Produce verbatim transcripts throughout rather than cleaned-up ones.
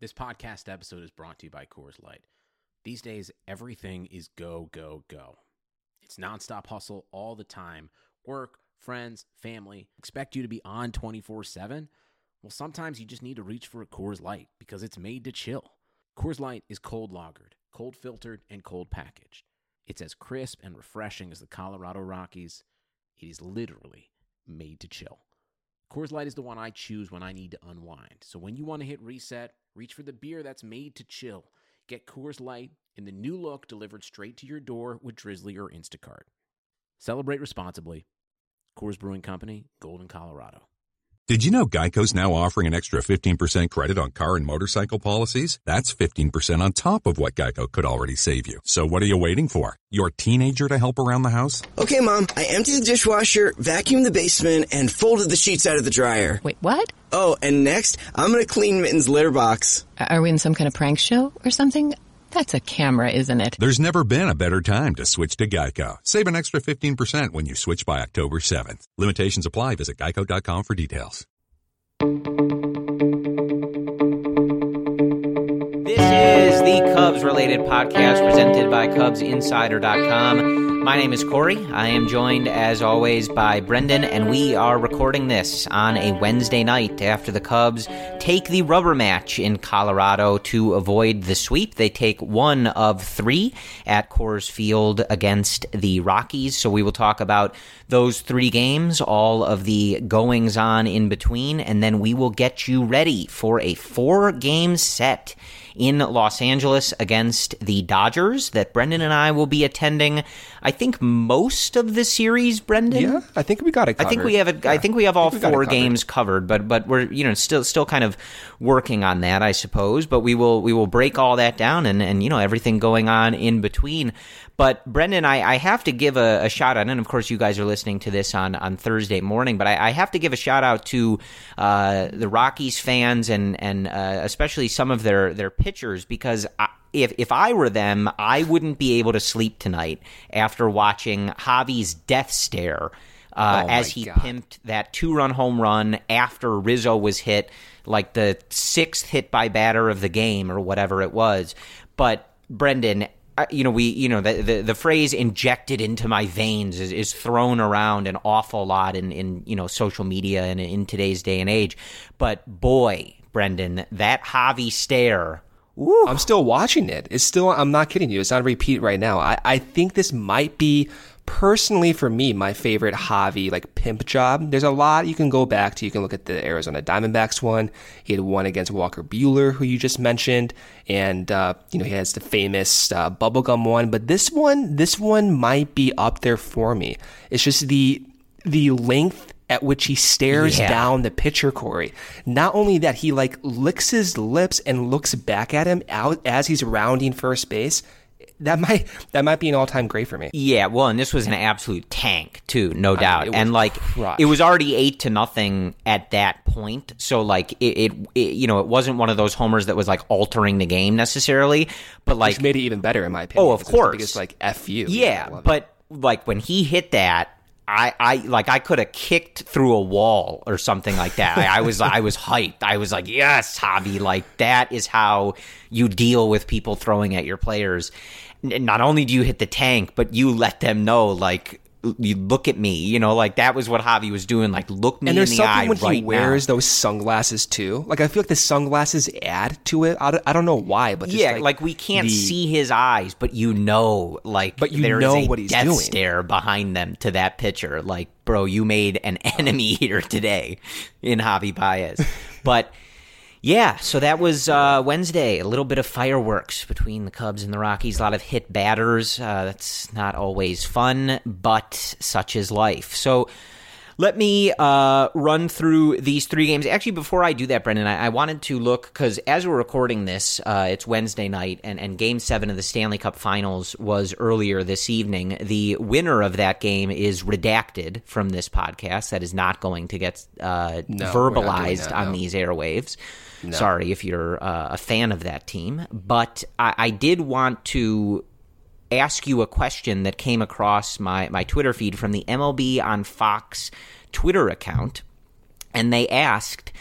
This podcast episode is brought to you by Coors Light. These days, everything is go, go, go. It's nonstop hustle all the time. Work, friends, family, expect you to be on twenty-four seven? Well, sometimes you just need to reach for a Coors Light because it's made to chill. Coors Light is cold lagered, cold filtered, and cold packaged. It's as crisp and refreshing as the Colorado Rockies. It is literally made to chill. Coors Light is the one I choose when I need to unwind. So when you want to hit reset, reach for the beer that's made to chill. Get Coors Light in the new look delivered straight to your door with Drizzly or Instacart. Celebrate responsibly. Coors Brewing Company, Golden, Colorado. Did you know Geico's now offering an extra fifteen percent credit on car and motorcycle policies? That's fifteen percent on top of what Geico could already save you. So what are you waiting for? Your teenager to help around the house? Okay, Mom, I emptied the dishwasher, vacuumed the basement, and folded the sheets out of the dryer. Wait, what? Oh, and next, I'm going to clean Mitten's litter box. Are we in some kind of prank show or something? That's a camera, isn't it? There's never been a better time to switch to Geico. Save an extra fifteen percent when you switch by October seventh. Limitations apply. Visit geico dot com for details. This is the Cubs-related podcast presented by Cubs Insider dot com. My name is Corey. I am joined, as always, by Brendan, and we are recording this on a Wednesday night after the Cubs take the rubber match in Colorado to avoid the sweep. They take one of three at Coors Field against the Rockies, so we will talk about those three games, all of the goings-on in between, and then we will get you ready for a four-game set in Los Angeles against the Dodgers that Brendan and I will be attending. I think most of the series, Brendan. Yeah, I think we got it covered. I think we have a, yeah. I think we have all we four games covered, but but we're you know still still kind of working on that, I suppose. But we will we will break all that down and and you know everything going on in between. But Brendan, I, I have to give a, a shout out, and of course you guys are listening to this on, on Thursday morning, but I, I have to give a shout out to uh, the Rockies fans and and uh, especially some of their their pitchers, because I, if if I were them, I wouldn't be able to sleep tonight after watching Javi's death stare uh, oh as he God. pimped that two run home run after Rizzo was hit, like the sixth hit by batter of the game or whatever it was. But Brendan, you know, we, you know, the, the, the phrase injected into my veins is, is thrown around an awful lot in, in, you know, social media and in today's day and age. But boy, Brendan, that Javi stare. Woo. I'm still watching it. It's still, I'm not kidding you. It's on repeat right now. I, I think this might be, personally for me, my favorite Javi, like, pimp job. There's a lot you can go back to. You can look at the Arizona Diamondbacks one. He had one against Walker Buehler, who you just mentioned. And, uh, you know, he has the famous uh, bubblegum one. But this one, this one might be up there for me. It's just the the length at which he stares yeah. down the pitcher, Corey. Not only that, he, like, licks his lips and looks back at him out as he's rounding first base. That might that might be an all-time great for me. Yeah, well, and this was an absolute tank too, no doubt. I mean, and like crushed. It was already eight to nothing at that point. So like it, it, it, you know, it wasn't one of those homers that was like altering the game necessarily. But like, which made it even better in my opinion. Oh, of course, because like F you. Yeah, yeah but like when he hit that, I, I like I could have kicked through a wall or something like that. I, I was I was hyped. I was like, yes, Javi, like that is how you deal with people throwing at your players. Not only do you hit the tank, but you let them know, like, you look at me, you know, like that was what Javi was doing. Like, look me in the eye right now. And there's something when he wears those sunglasses too. Like, I feel like the sunglasses add to it. I don't, I don't know why, but just yeah, like, like we can't the, see his eyes, but you know, like, but you there know is a what he's death doing. stare behind them to that pitcher. Like, bro, you made an enemy here today in Javi Baez. But yeah, so that was uh, Wednesday. A little bit of fireworks between the Cubs and the Rockies. A lot of hit batters. Uh, that's not always fun, but such is life. So let me uh, run through these three games. Actually, before I do that, Brendan, I, I wanted to look, because as we're recording this, uh, it's Wednesday night, and, and Game seven of the Stanley Cup Finals was earlier this evening. The winner of that game is redacted from this podcast. That is not going to get uh, no, verbalized that, on no. these airwaves. No. Sorry if you're uh, a fan of that team. But I, I did want to ask you a question that came across my, my Twitter feed from the M L B on Fox Twitter account. And they asked,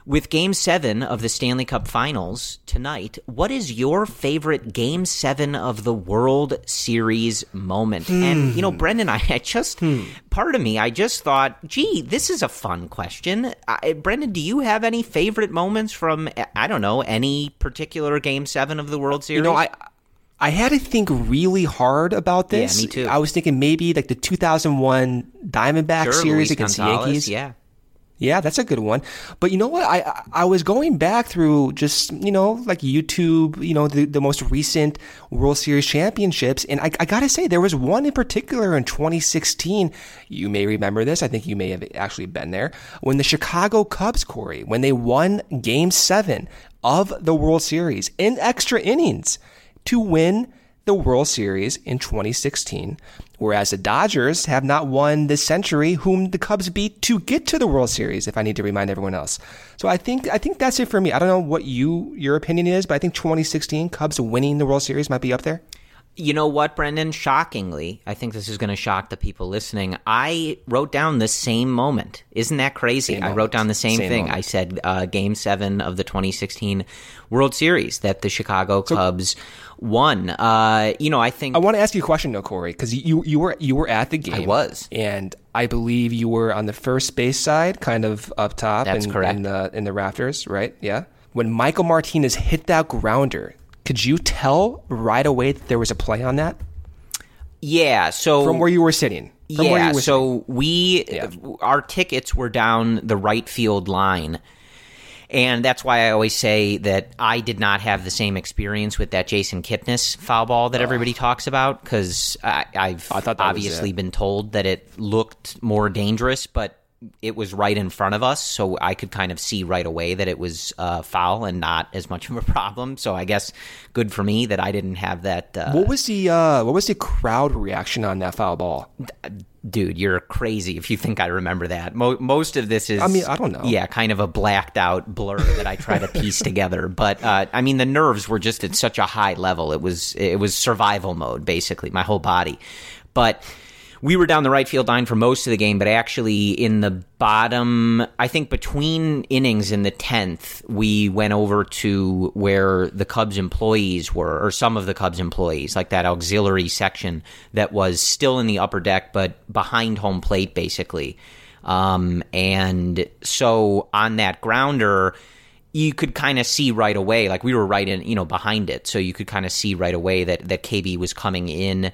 With Game seven of the Stanley Cup Finals tonight, what is your favorite Game seven of the World Series moment? Hmm. And, you know, Brendan, I, I just, hmm. part of me, I just thought, gee, this is a fun question. I, Brendan, do you have any favorite moments from, I don't know, any particular Game seven of the World Series? You know, I... I had to think really hard about this. Yeah, me too. I was thinking maybe like the two thousand one Diamondback sure, series Luis against Gonzalez, the Yankees. Yeah. Yeah, that's a good one. But you know what? I I was going back through just, you know, like YouTube, you know, the, the most recent World Series championships. And I, I got to say, there was one in particular in twenty sixteen. You may remember this. I think you may have actually been there. When the Chicago Cubs, Corey, when they won Game seven of the World Series in extra innings to win the World Series in twenty sixteen, whereas the Dodgers have not won this century, whom the Cubs beat to get to the World Series, if I need to remind everyone else. So I think I think that's it for me. I don't know what you your opinion is, but I think twenty sixteen Cubs winning the World Series might be up there. You know what, Brendan? Shockingly, I think this is going to shock the people listening. I wrote down the same moment. Isn't that crazy? Same I moment. wrote down the same, same thing. Moment. I said uh, Game seven of the twenty sixteen World Series that the Chicago Cubs so, won. Uh, you know, I think I want to ask you a question, though, Corey, because you you were you were at the game. I was, and I believe you were on the first base side, kind of up top. That's in, correct. In the in the rafters, right? Yeah. When Michael Martinez hit that grounder, could you tell right away that there was a play on that? Yeah, so from where you were sitting. From yeah, where you were so sitting. we yeah. our tickets were down the right field line. And that's why I always say that I did not have the same experience with that Jason Kipnis foul ball that everybody oh. talks about, because I've I obviously been told that it looked more dangerous, but it was right in front of us, so I could kind of see right away that it was uh, foul and not as much of a problem. So I guess good for me that I didn't have that. Uh, what was the uh, what was the crowd reaction on that foul ball? Dude, you're crazy if you think I remember that. Mo- most of this is, I mean, I don't know. Yeah, kind of a blacked out blur that I try to piece together. But uh, I mean, the nerves were just at such a high level. It was it was survival mode, basically, my whole body. But we were down the right field line for most of the game, but actually in the bottom, I think between innings in the tenth, we went over to where the Cubs employees were, or some of the Cubs employees, like that auxiliary section that was still in the upper deck, but behind home plate, basically. Um, and so on that grounder, you could kind of see right away, like we were right in, you know, behind it. So you could kind of see right away that, that K B was coming in,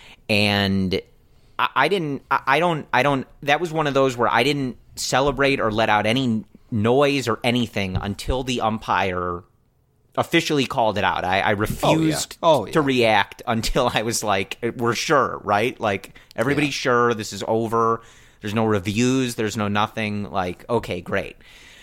and I didn't, I don't, I don't, that was one of those where I didn't celebrate or let out any noise or anything until the umpire officially called it out. I, I refused oh, yeah. Oh, yeah. to react until I was like, we're sure, right? Like, everybody's yeah. sure this is over. There's no reviews. There's no nothing. Like, okay, great.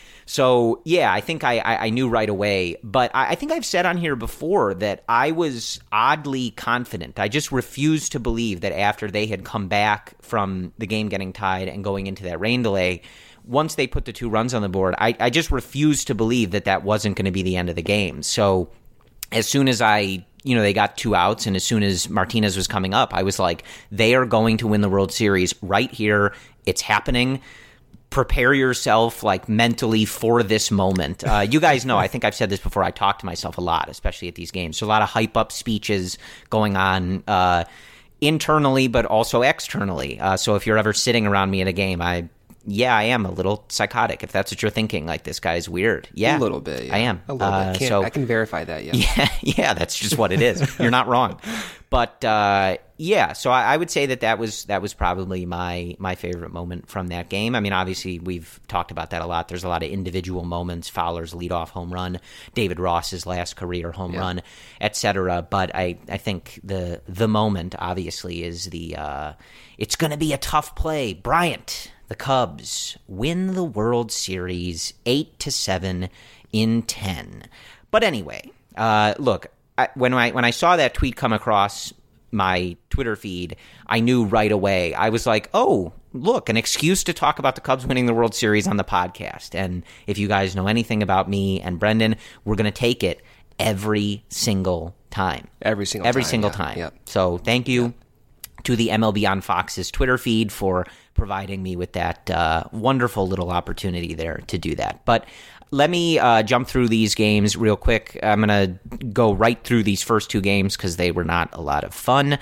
So, yeah, I think I, I, I knew right away. But I, I think I've said on here before that I was oddly confident. I just refused to believe that after they had come back from the game getting tied and going into that rain delay, once they put the two runs on the board, I, I just refused to believe that that wasn't going to be the end of the game. So as soon as I, you know, they got two outs, and as soon as Martinez was coming up, I was like, they are going to win the World Series right here. It's happening. Prepare yourself like mentally for this moment. Uh, you guys know, I think I've said this before, I talk to myself a lot, especially at these games. So a lot of hype up speeches going on uh, internally, but also externally. Uh, so if you're ever sitting around me at a game, I, yeah, I am a little psychotic. If that's what you're thinking, like this guy's weird. Yeah, a little bit. Yeah. I am. A little uh, bit. Can't, so I can verify that. Yeah. Yeah. Yeah. That's just what it is. You're not wrong. But uh, yeah, so I, I would say that that was that was probably my my favorite moment from that game. I mean, obviously we've talked about that a lot. There's a lot of individual moments: Fowler's leadoff home run, David Ross's last career home yeah. run, et cetera. But I, I think the the moment obviously is the uh, it's going to be a tough play. Bryant, the Cubs win the World Series eight to seven in ten. But anyway, uh, look. I, when I when I saw that tweet come across my Twitter feed, I knew right away. I was like, oh, look, an excuse to talk about the Cubs winning the World Series on the podcast. And if you guys know anything about me and Brendan, we're going to take it every single time. Every single every time. Every single yeah. time. Yep. So thank you yep. to the M L B on Fox's Twitter feed for providing me with that uh, wonderful little opportunity there to do that. But Let me uh, jump through these games real quick. I'm going to go right through these first two games because they were not a lot of fun.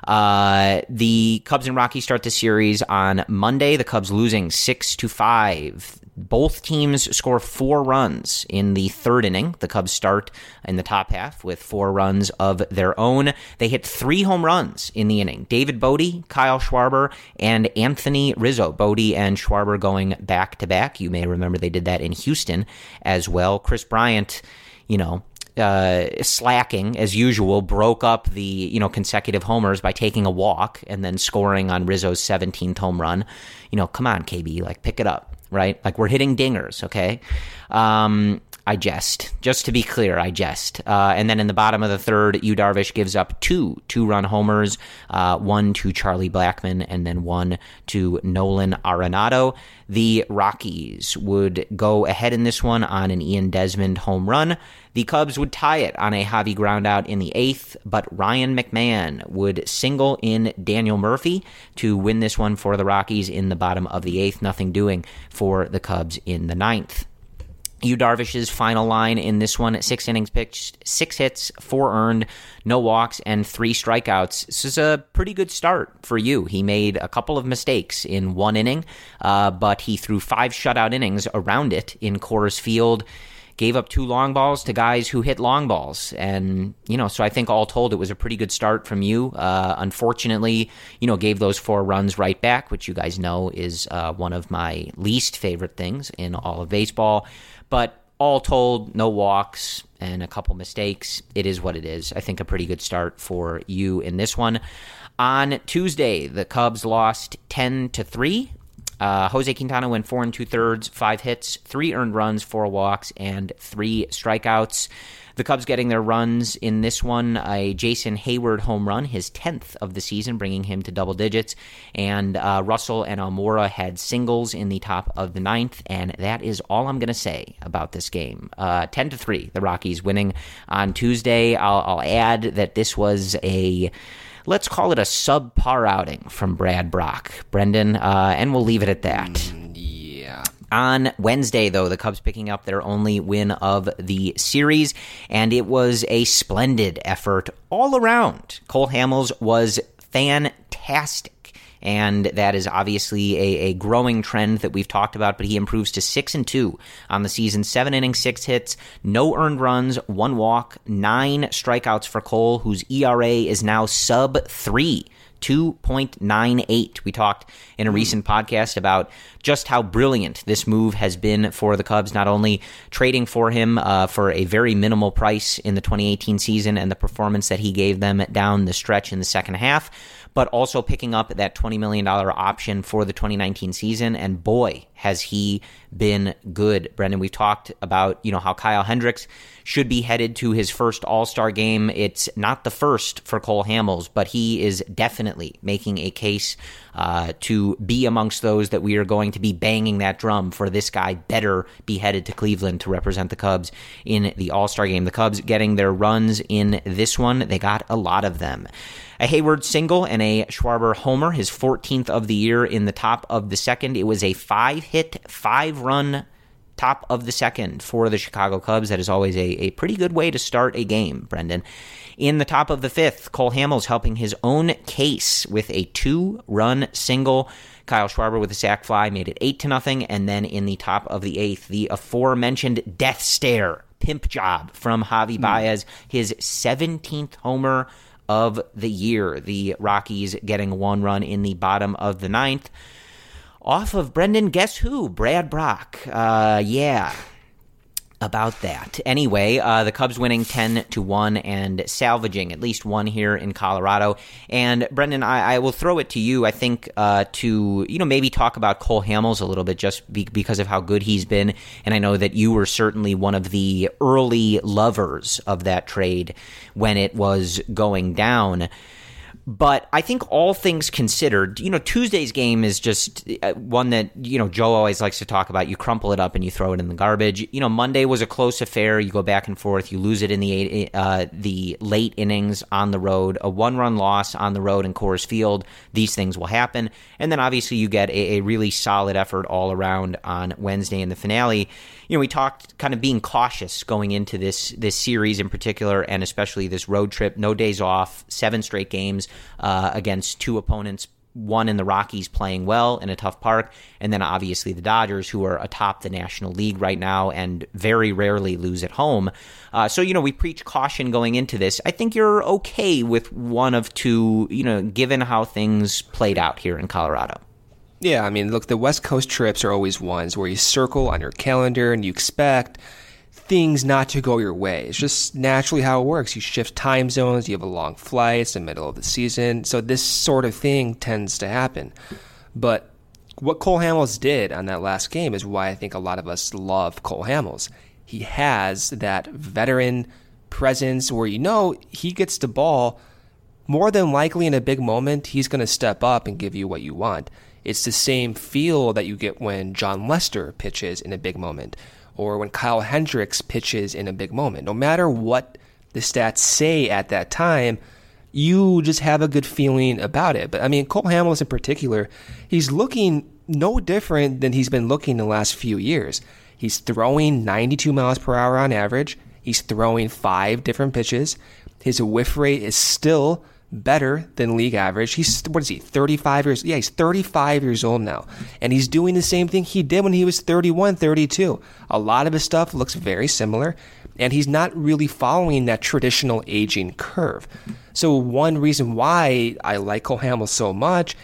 Uh, the Cubs and Rockies start the series on Monday. The Cubs losing six to five. Both teams score four runs in the third inning. The Cubs start in the top half with four runs of their own. They hit three home runs in the inning. David Bote, Kyle Schwarber, and Anthony Rizzo. Bote and Schwarber going back-to-back. You may remember they did that in Houston as well. Chris Bryant, you know, uh, slacking as usual, broke up the, you know, consecutive homers by taking a walk and then scoring on Rizzo's seventeenth home run. You know, come on, K B, like, pick it up. Right? Like, we're hitting dingers, okay? Um, I jest. Just to be clear, I jest. Uh, and then in the bottom of the third, Yu Darvish gives up two two-run homers, uh, one to Charlie Blackmon and then one to Nolan Arenado. The Rockies would go ahead in this one on an Ian Desmond home run. The Cubs would tie it on a Javi groundout in the eighth, but Ryan McMahon would single in Daniel Murphy to win this one for the Rockies in the bottom of the eighth. Nothing doing for the Cubs in the ninth. Yu Darvish's final line in this one, six innings pitched, six hits, four earned, no walks, and three strikeouts. This is a pretty good start for Yu. He made a couple of mistakes in one inning, uh, but he threw five shutout innings around it in Coors Field, gave up two long balls to guys who hit long balls. And, you know, so I think all told, it was a pretty good start from Yu. Uh, unfortunately, you know, gave those four runs right back, which you guys know is uh, one of my least favorite things in all of baseball. But all told, no walks and a couple mistakes. It is what it is. I think a pretty good start for Yu in this one. On Tuesday, the Cubs lost ten to three. Uh, Jose Quintana went four and two thirds, five hits, three earned runs, four walks, and three strikeouts. The Cubs getting their runs in this one, a Jason Hayward home run, his tenth of the season, bringing him to double digits. And uh, Russell and Almora had singles in the top of the ninth, and that is all I'm going to say about this game. Uh, ten to three, the Rockies winning on Tuesday. I'll, I'll add that this was a, let's call it a subpar outing from Brad Brach, Brendan, uh, and we'll leave it at that. Mm, yeah. On Wednesday, though, the Cubs picking up their only win of the series, and it was a splendid effort all around. Cole Hamels was fantastic, and that is obviously a, a growing trend that we've talked about, but he improves to six and two on the season, seven innings, six hits, no earned runs, one walk, nine strikeouts for Cole, whose E R A is now sub three. two point nine eight. We talked in a recent podcast about just how brilliant this move has been for the Cubs, not only trading for him uh, for a very minimal price in the twenty eighteen season and the performance that he gave them down the stretch in the second half, but also picking up that twenty million dollars option for the twenty nineteen season. And boy, has he been good. Brendan, we've talked about, you know, how Kyle Hendricks should be headed to his first All-Star game. It's not the first for Cole Hamels, but he is definitely making a case uh, to be amongst those that we are going to be banging that drum for. This guy better be headed to Cleveland to represent the Cubs in the All-Star game. The Cubs getting their runs in this one. They got a lot of them. A Hayward single and a Schwarber homer, his fourteenth of the year in the top of the second. It was a five-hit, five-run top of the second for the Chicago Cubs. That is always a, a pretty good way to start a game, Brendan. In the top of the fifth, Cole Hamels helping his own case with a two-run single. Kyle Schwarber with a sac fly made it eight to nothing. And then in the top of the eighth, the aforementioned death stare, pimp job from Javi Baez, his seventeenth homer of the year. The Rockies getting one run in the bottom of the ninth. Off of, Brendan, guess who? Brad Brach. Uh, yeah, about that. Anyway, uh, the Cubs winning ten to one and salvaging at least one here in Colorado. And Brendan, I, I will throw it to you, I think, uh, to, you know, maybe talk about Cole Hamels a little bit just be- because of how good he's been. And I know that you were certainly one of the early lovers of that trade when it was going down. But I think all things considered, you know, Tuesday's game is just one that, you know, Joe always likes to talk about. You crumple it up and you throw it in the garbage. You know, Monday was a close affair. You go back and forth. You lose it in the eight, uh, the late innings on the road. A one-run loss on the road in Coors Field. These things will happen. And then obviously you get a, a really solid effort all around on Wednesday in the finale. you know, we talked kind of being cautious going into this this series in particular, and especially this road trip. No days off, seven straight games uh, against two opponents. One in the Rockies playing well in a tough park, and then obviously the Dodgers, who are atop the National League right now and very rarely lose at home. Uh, so, you know, we preach caution going into this. I think you're okay with one of two, you know, given how things played out here in Colorado. Yeah, I mean, look, the West Coast trips are always ones where you circle on your calendar and you expect things not to go your way. It's just naturally how it works. You shift time zones, you have a long flight, it's the middle of the season, so this sort of thing tends to happen. But what Cole Hamels did on that last game is why I think a lot of us love Cole Hamels. He has that veteran presence where you know he gets the ball, more than likely in a big moment, he's going to step up and give you what you want. It's the same feel that you get when John Lester pitches in a big moment, or when Kyle Hendricks pitches in a big moment. No matter what the stats say at that time, you just have a good feeling about it. But I mean, Cole Hamels in particular, he's looking no different than he's been looking the last few years. He's throwing ninety-two miles per hour on average. He's throwing five different pitches. His whiff rate is still better than league average. He's, what is he, thirty-five years? Yeah, he's thirty-five years old now. And he's doing the same thing he did when he was thirty-one, thirty-two. A lot of his stuff looks very similar, and he's not really following that traditional aging curve. So one reason why I like Cole Hamels so much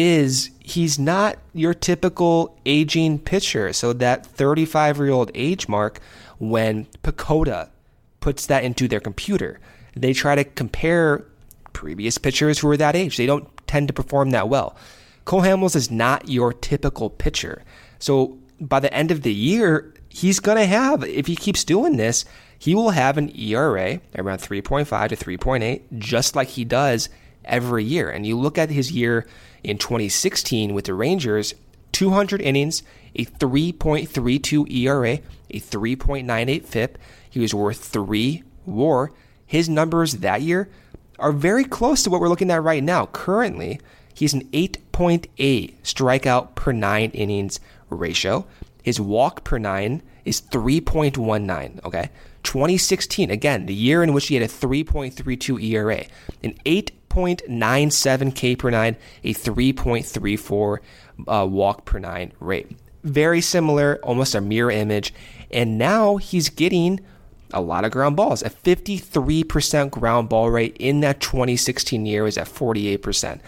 is he's not your typical aging pitcher. So that thirty-five-year-old age mark, when PECOTA puts that into their computer, they try to compare previous pitchers who are that age. They don't tend to perform that well. Cole Hamels is not your typical pitcher. So by the end of the year, he's going to have, if he keeps doing this, he will have an E R A around three point five to three point eight, just like he does every year. And you look at his year in twenty sixteen with the Rangers, two hundred innings, a three point three two E R A, a three point nine eight F I P. He was worth three W A R. His numbers that year are very close to what we're looking at right now. Currently, he's an eight point eight strikeout per nine innings ratio. His walk per nine is three point one nine, okay? twenty sixteen, again, the year in which he had a three point three two E R A, an eight point nine seven K per nine, a three point three four uh, walk per nine rate. Very similar, almost a mirror image. And now he's getting a lot of ground balls. A fifty-three percent ground ball rate in that twenty sixteen year was at forty-eight percent.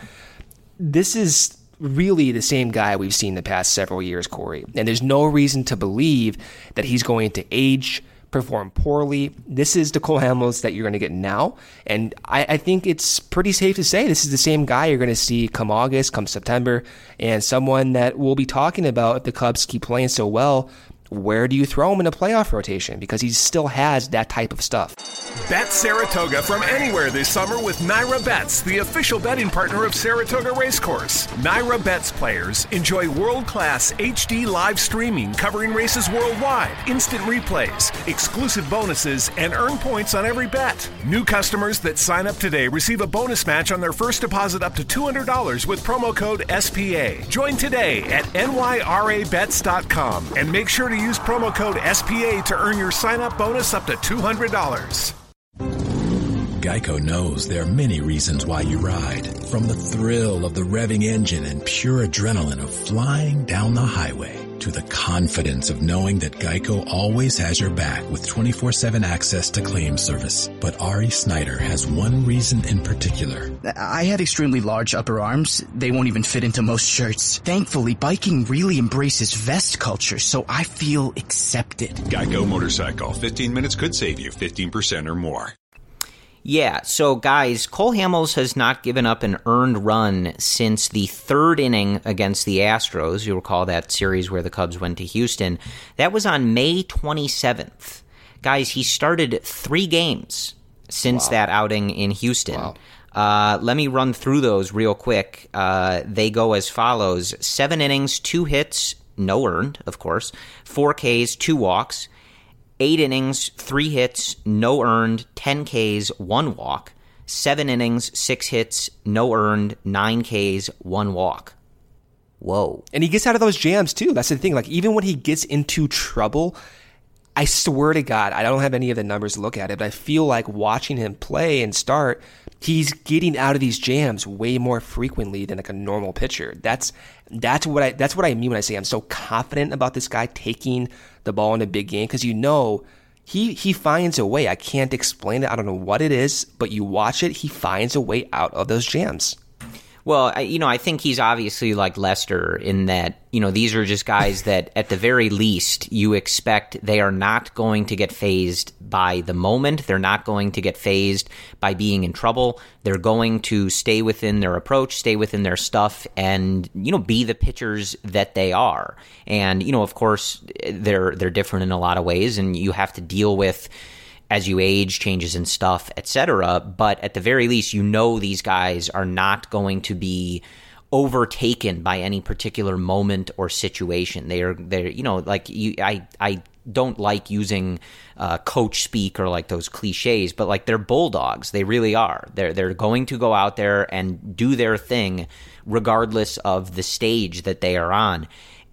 This is really the same guy we've seen the past several years, Corey. And there's no reason to believe that he's going to age, perform poorly. This is the Cole Hamels that you're going to get now. And I, I think it's pretty safe to say this is the same guy you're going to see come August, come September, and someone that we'll be talking about if the Cubs keep playing so well. Where do you throw him in a playoff rotation? Because he still has that type of stuff. Bet Saratoga from anywhere this summer with Naira Bets, the official betting partner of Saratoga Racecourse. Naira Bets players enjoy world-class H D live streaming covering races worldwide, instant replays, exclusive bonuses, and earn points on every bet. New customers that sign up today receive a bonus match on their first deposit up to two hundred dollars with promo code S P A. Join today at N Y R A bets dot com and make sure to use promo code S P A to earn your sign-up bonus up to two hundred dollars. Geico knows there are many reasons why you ride. From the thrill of the revving engine and pure adrenaline of flying down the highway to the confidence of knowing that Geico always has your back with twenty-four seven access to claim service. But Ari Snyder has one reason in particular. I had extremely large upper arms. They won't even fit into most shirts. Thankfully, biking really embraces vest culture, so I feel accepted. Geico Motorcycle. fifteen minutes could save you fifteen percent or more. Yeah, so guys, Cole Hamels has not given up an earned run since the third inning against the Astros. You'll recall that series where the Cubs went to Houston. That was on May twenty-seventh. Guys, he started three games since wow. that outing in Houston. Wow. Uh, let me run through those real quick. Uh, they go as follows. Seven innings, two hits, no earned, of course. Four Ks, two walks. Eight innings, three hits, no earned, ten Ks, one walk. Seven innings, six hits, no earned, nine Ks, one walk. Whoa. And he gets out of those jams, too. That's the thing. Like, even when he gets into trouble, I swear to God, I don't have any of the numbers to look at it, but I feel like watching him play and start, he's getting out of these jams way more frequently than like a normal pitcher. That's that's what I that's what I mean when I say I'm so confident about this guy taking the ball in a big game, because you know he he finds a way. I can't explain it. I don't know what it is, but you watch it, he finds a way out of those jams. Well, I, you know, I think he's obviously like Lester in that, you know, these are just guys that at the very least you expect they are not going to get phased by the moment. They're not going to get phased by being in trouble. They're going to stay within their approach, stay within their stuff, and, you know, be the pitchers that they are. And, you know, of course, they're they're different in a lot of ways, and you have to deal with, as you age, changes in stuff, et cetera. But at the very least, you know these guys are not going to be overtaken by any particular moment or situation. They are, they're, you know, like you, I, I don't like using uh, coach speak or like those cliches, but like they're bulldogs. They really are. They're they're going to go out there and do their thing, regardless of the stage that they are on.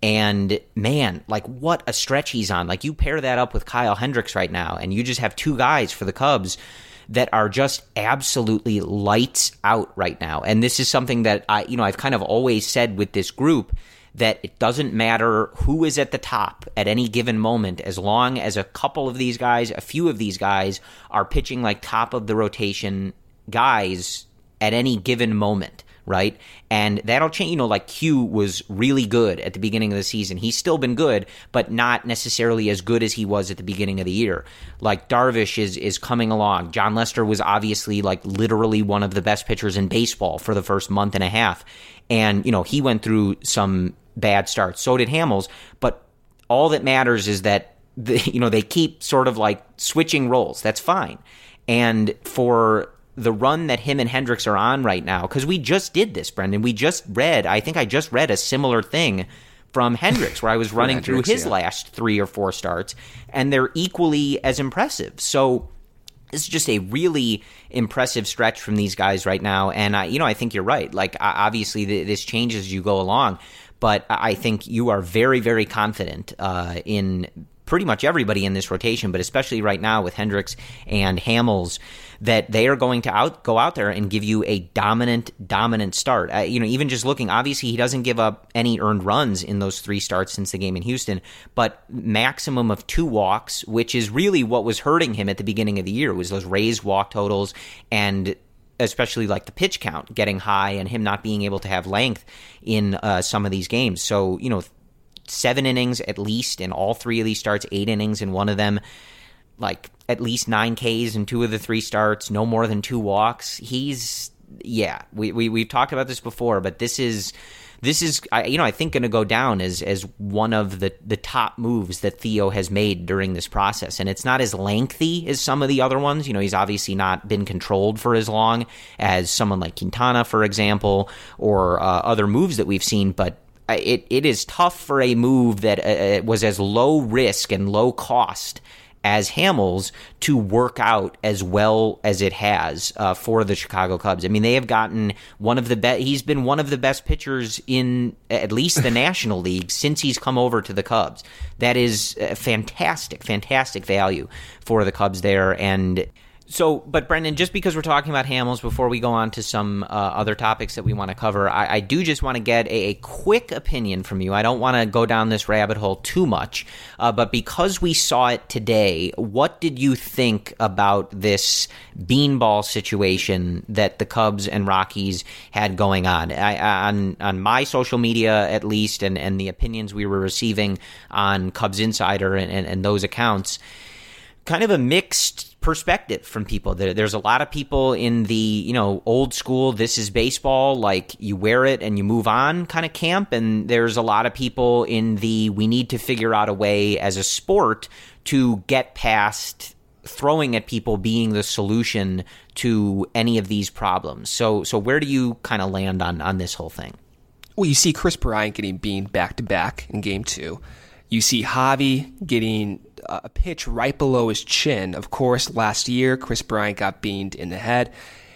And man, like what a stretch he's on. Like you pair that up with Kyle Hendricks right now, and you just have two guys for the Cubs that are just absolutely lights out right now. And this is something that I, you know, I've kind of always said with this group, that it doesn't matter who is at the top at any given moment, as long as a couple of these guys, a few of these guys are pitching like top of the rotation guys at any given moment. Right? And that'll change. You know, like Q was really good at the beginning of the season. He's still been good, but not necessarily as good as he was at the beginning of the year. Like Darvish is is coming along. John Lester was obviously like literally one of the best pitchers in baseball for the first month and a half. And, you know, he went through some bad starts. So did Hamels. But all that matters is that, the, you know, they keep sort of like switching roles. That's fine. And for the run that him and Hendricks are on right now, because we just did this, Brendan. We just read, I think I just read a similar thing from Hendricks, where I was running through his yeah. last three or four starts, and they're equally as impressive. So this is just a really impressive stretch from these guys right now. And, I, you know, I think you're right. Like, obviously, this changes as you go along, but I think you are very, very confident uh, in pretty much everybody in this rotation, but especially right now with Hendricks and Hamels, that they are going to out go out there and give you a dominant, dominant start. Uh, you know, even just looking, obviously he doesn't give up any earned runs in those three starts since the game in Houston, but maximum of two walks, which is really what was hurting him at the beginning of the year, was those raised walk totals and especially like the pitch count getting high and him not being able to have length in uh, some of these games. So, you know, seven innings at least in all three of these starts, eight innings in one of them, like at least nine Ks in two of the three starts, no more than two walks. He's, yeah, we, we, we've talked about this before, but this is, this is, you know, I think going to go down as, as one of the, the top moves that Theo has made during this process. And it's not as lengthy as some of the other ones. You know, he's obviously not been controlled for as long as someone like Quintana, for example, or uh, other moves that we've seen, but It it is tough for a move that uh, was as low risk and low cost as Hamels to work out as well as it has uh, for the Chicago Cubs. I mean, they have gotten one of the best. He's been one of the best pitchers in at least the National League since he's come over to the Cubs. That is a fantastic, fantastic value for the Cubs there. And so, but Brendan, just because we're talking about Hamels, before we go on to some uh, other topics that we want to cover, I, I do just want to get a, a quick opinion from you. I don't want to go down this rabbit hole too much, uh, but because we saw it today, what did you think about this beanball situation that the Cubs and Rockies had going on? I, on on my social media, at least, and, and the opinions we were receiving on Cubs Insider and, and, and those accounts, kind of a mixed perspective from people. There, there's a lot of people in the, you know, old school, this is baseball, like you wear it and you move on kind of camp. And there's a lot of people in the, we need to figure out a way as a sport to get past throwing at people being the solution to any of these problems. So, so where do you kind of land on, on this whole thing? Well, you see Chris Bryant getting beamed back to back in game two. You see Javi getting a pitch right below his chin. Of course, last year, Chris Bryant got beamed in the head.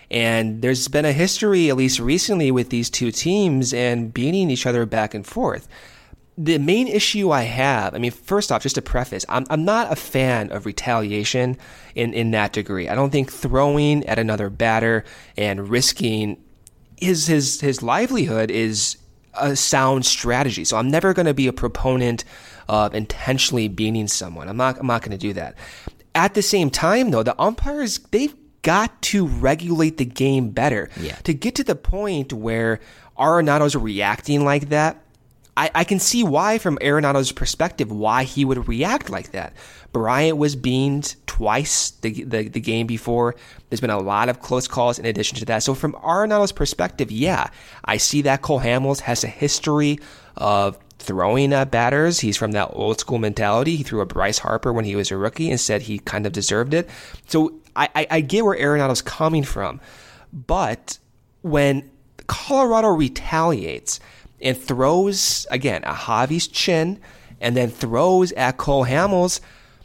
And there's been a history, at least recently, with these two teams and beating each other back and forth. the main issue I have, I mean, first off, just to preface, I'm I'm not a fan of retaliation in, in that degree. I don't think throwing at another batter and risking his his his livelihood is a sound strategy. So I'm never going to be a proponent of intentionally beating someone. I'm not I'm not going to do that. At the same time, though, the umpires, they've got to regulate the game better. Yeah. To get to the point where Arenado's reacting like that, I, I can see why, from Arenado's perspective, why he would react like that. Bryant was beamed twice the, the the game before. There's been a lot of close calls in addition to that. So from Arenado's perspective, yeah, I see that Cole Hamels has a history of throwing at batters. He's from that old school mentality. He threw a Bryce Harper when he was a rookie and said he kind of deserved it. So I, I, I get where Arenado's coming from. But when Colorado retaliates and throws, again, at Javi's chin and then throws at Cole Hamels,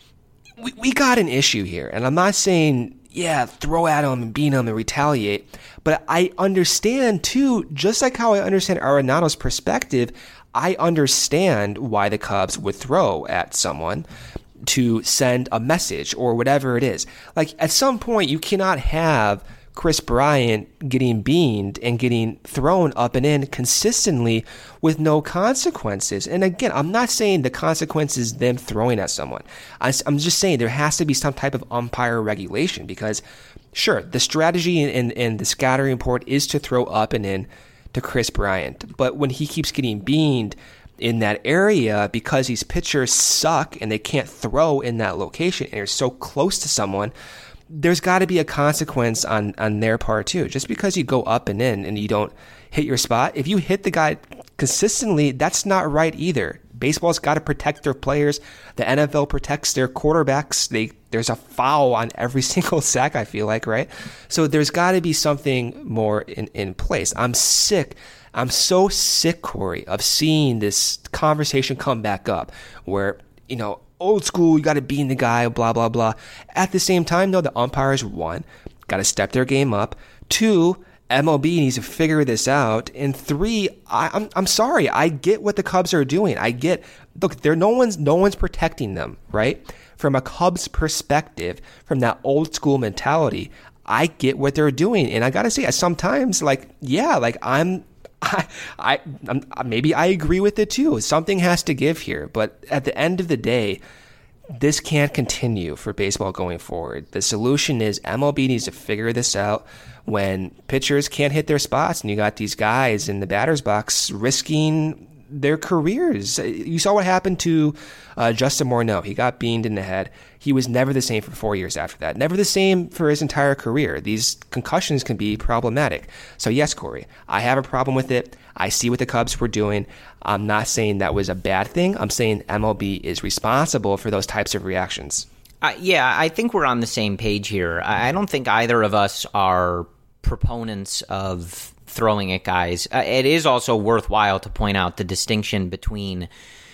we, we got an issue here. And I'm not saying, yeah, throw at him and beat him and retaliate. But I understand, too, just like how I understand Arenado's perspective, I understand why the Cubs would throw at someone to send a message or whatever it is. Like, at some point, you cannot have Kris Bryant getting beamed and getting thrown up and in consistently with no consequences. And again, I'm not saying the consequence is them throwing at someone. I'm just saying there has to be some type of umpire regulation, because sure, the strategy in, in, in the scattering report is to throw up and in to Kris Bryant. But when he keeps getting beamed in that area because these pitchers suck and they can't throw in that location and they're so close to someone, there's got to be a consequence on, on their part too. Just because you go up and in and you don't hit your spot, if you hit the guy consistently, that's not right either. Baseball's got to protect their players. The N F L protects their quarterbacks. They there's a foul on every single sack, I feel like, right? So there's got to be something more in, in place. I'm sick. I'm so sick, Corey, of seeing this conversation come back up where, you know, old school, you got to beat the guy, blah, blah, blah. At the same time, though, the umpires, one, got to step their game up. Two, M L B needs to figure this out. And three, I, I'm I'm sorry, I get what the Cubs are doing. I get, look, there no one's no one's protecting them, right? From a Cubs perspective, from that old school mentality, I get what they're doing. And I gotta say, sometimes, like, yeah, like I'm. I, I, I'm, maybe I agree with it too. Something has to give here, but at the end of the day, this can't continue for baseball going forward. The solution is M L B needs to figure this out. When pitchers can't hit their spots and you got these guys in the batter's box risking their careers. You saw what happened to uh, Justin Morneau. He got beamed in the head. He was never the same for four years after that. Never the same for his entire career. These concussions can be problematic. So yes, Corey, I have a problem with it. I see what the Cubs were doing. I'm not saying that was a bad thing. I'm saying M L B is responsible for those types of reactions. Uh, yeah, I think we're on the same page here. I don't think either of us are proponents of throwing at guys. Uh, it is also worthwhile to point out the distinction between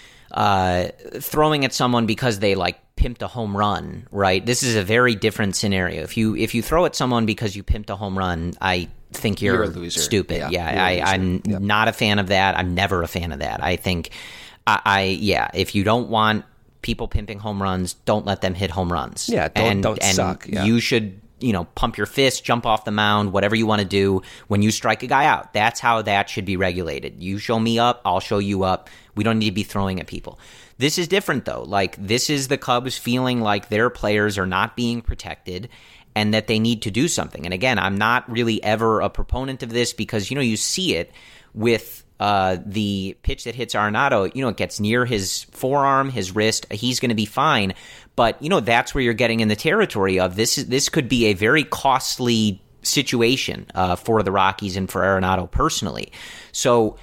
uh, throwing at someone because they like pimped a home run, right? This is a very different scenario. If you if you throw at someone because you pimped a home run, I think you're, you're a loser. Stupid. Yeah, yeah I, I'm yep. not a fan of that. I'm never a fan of that. I think, I, I yeah, if you don't want people pimping home runs, don't let them hit home runs. Yeah, don't, and, don't and suck. Yeah. You should, you know, pump your fist, jump off the mound, whatever you want to do when you strike a guy out. That's how that should be regulated. You show me up, I'll show you up. We don't need to be throwing at people. This is different, though. Like, this is the Cubs feeling like their players are not being protected and that they need to do something. And again, I'm not really ever a proponent of this because, you know, you see it with Uh, the pitch that hits Arenado, you know, it gets near his forearm, his wrist. He's going to be fine. But, you know, that's where you're getting in the territory of this. Is, this could be a very costly situation uh, for the Rockies and for Arenado personally. So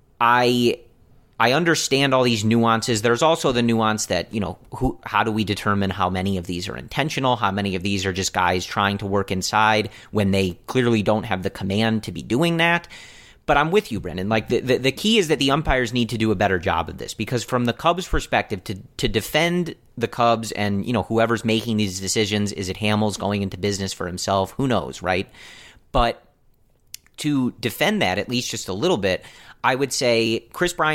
I I understand all these nuances. There's also the nuance that, you know, who, how do we determine how many of these are intentional? How many of these are just guys trying to work inside when they clearly don't have the command to be doing that? But I'm with you, Brendan. Like the, the, the key is that the umpires need to do a better job of this, because from the Cubs' perspective, to to defend the Cubs and, you know, whoever's making these decisions, is it Hamels going into business for himself? Who knows, right? But to defend that, at least just a little bit, I would say Kris Bryant has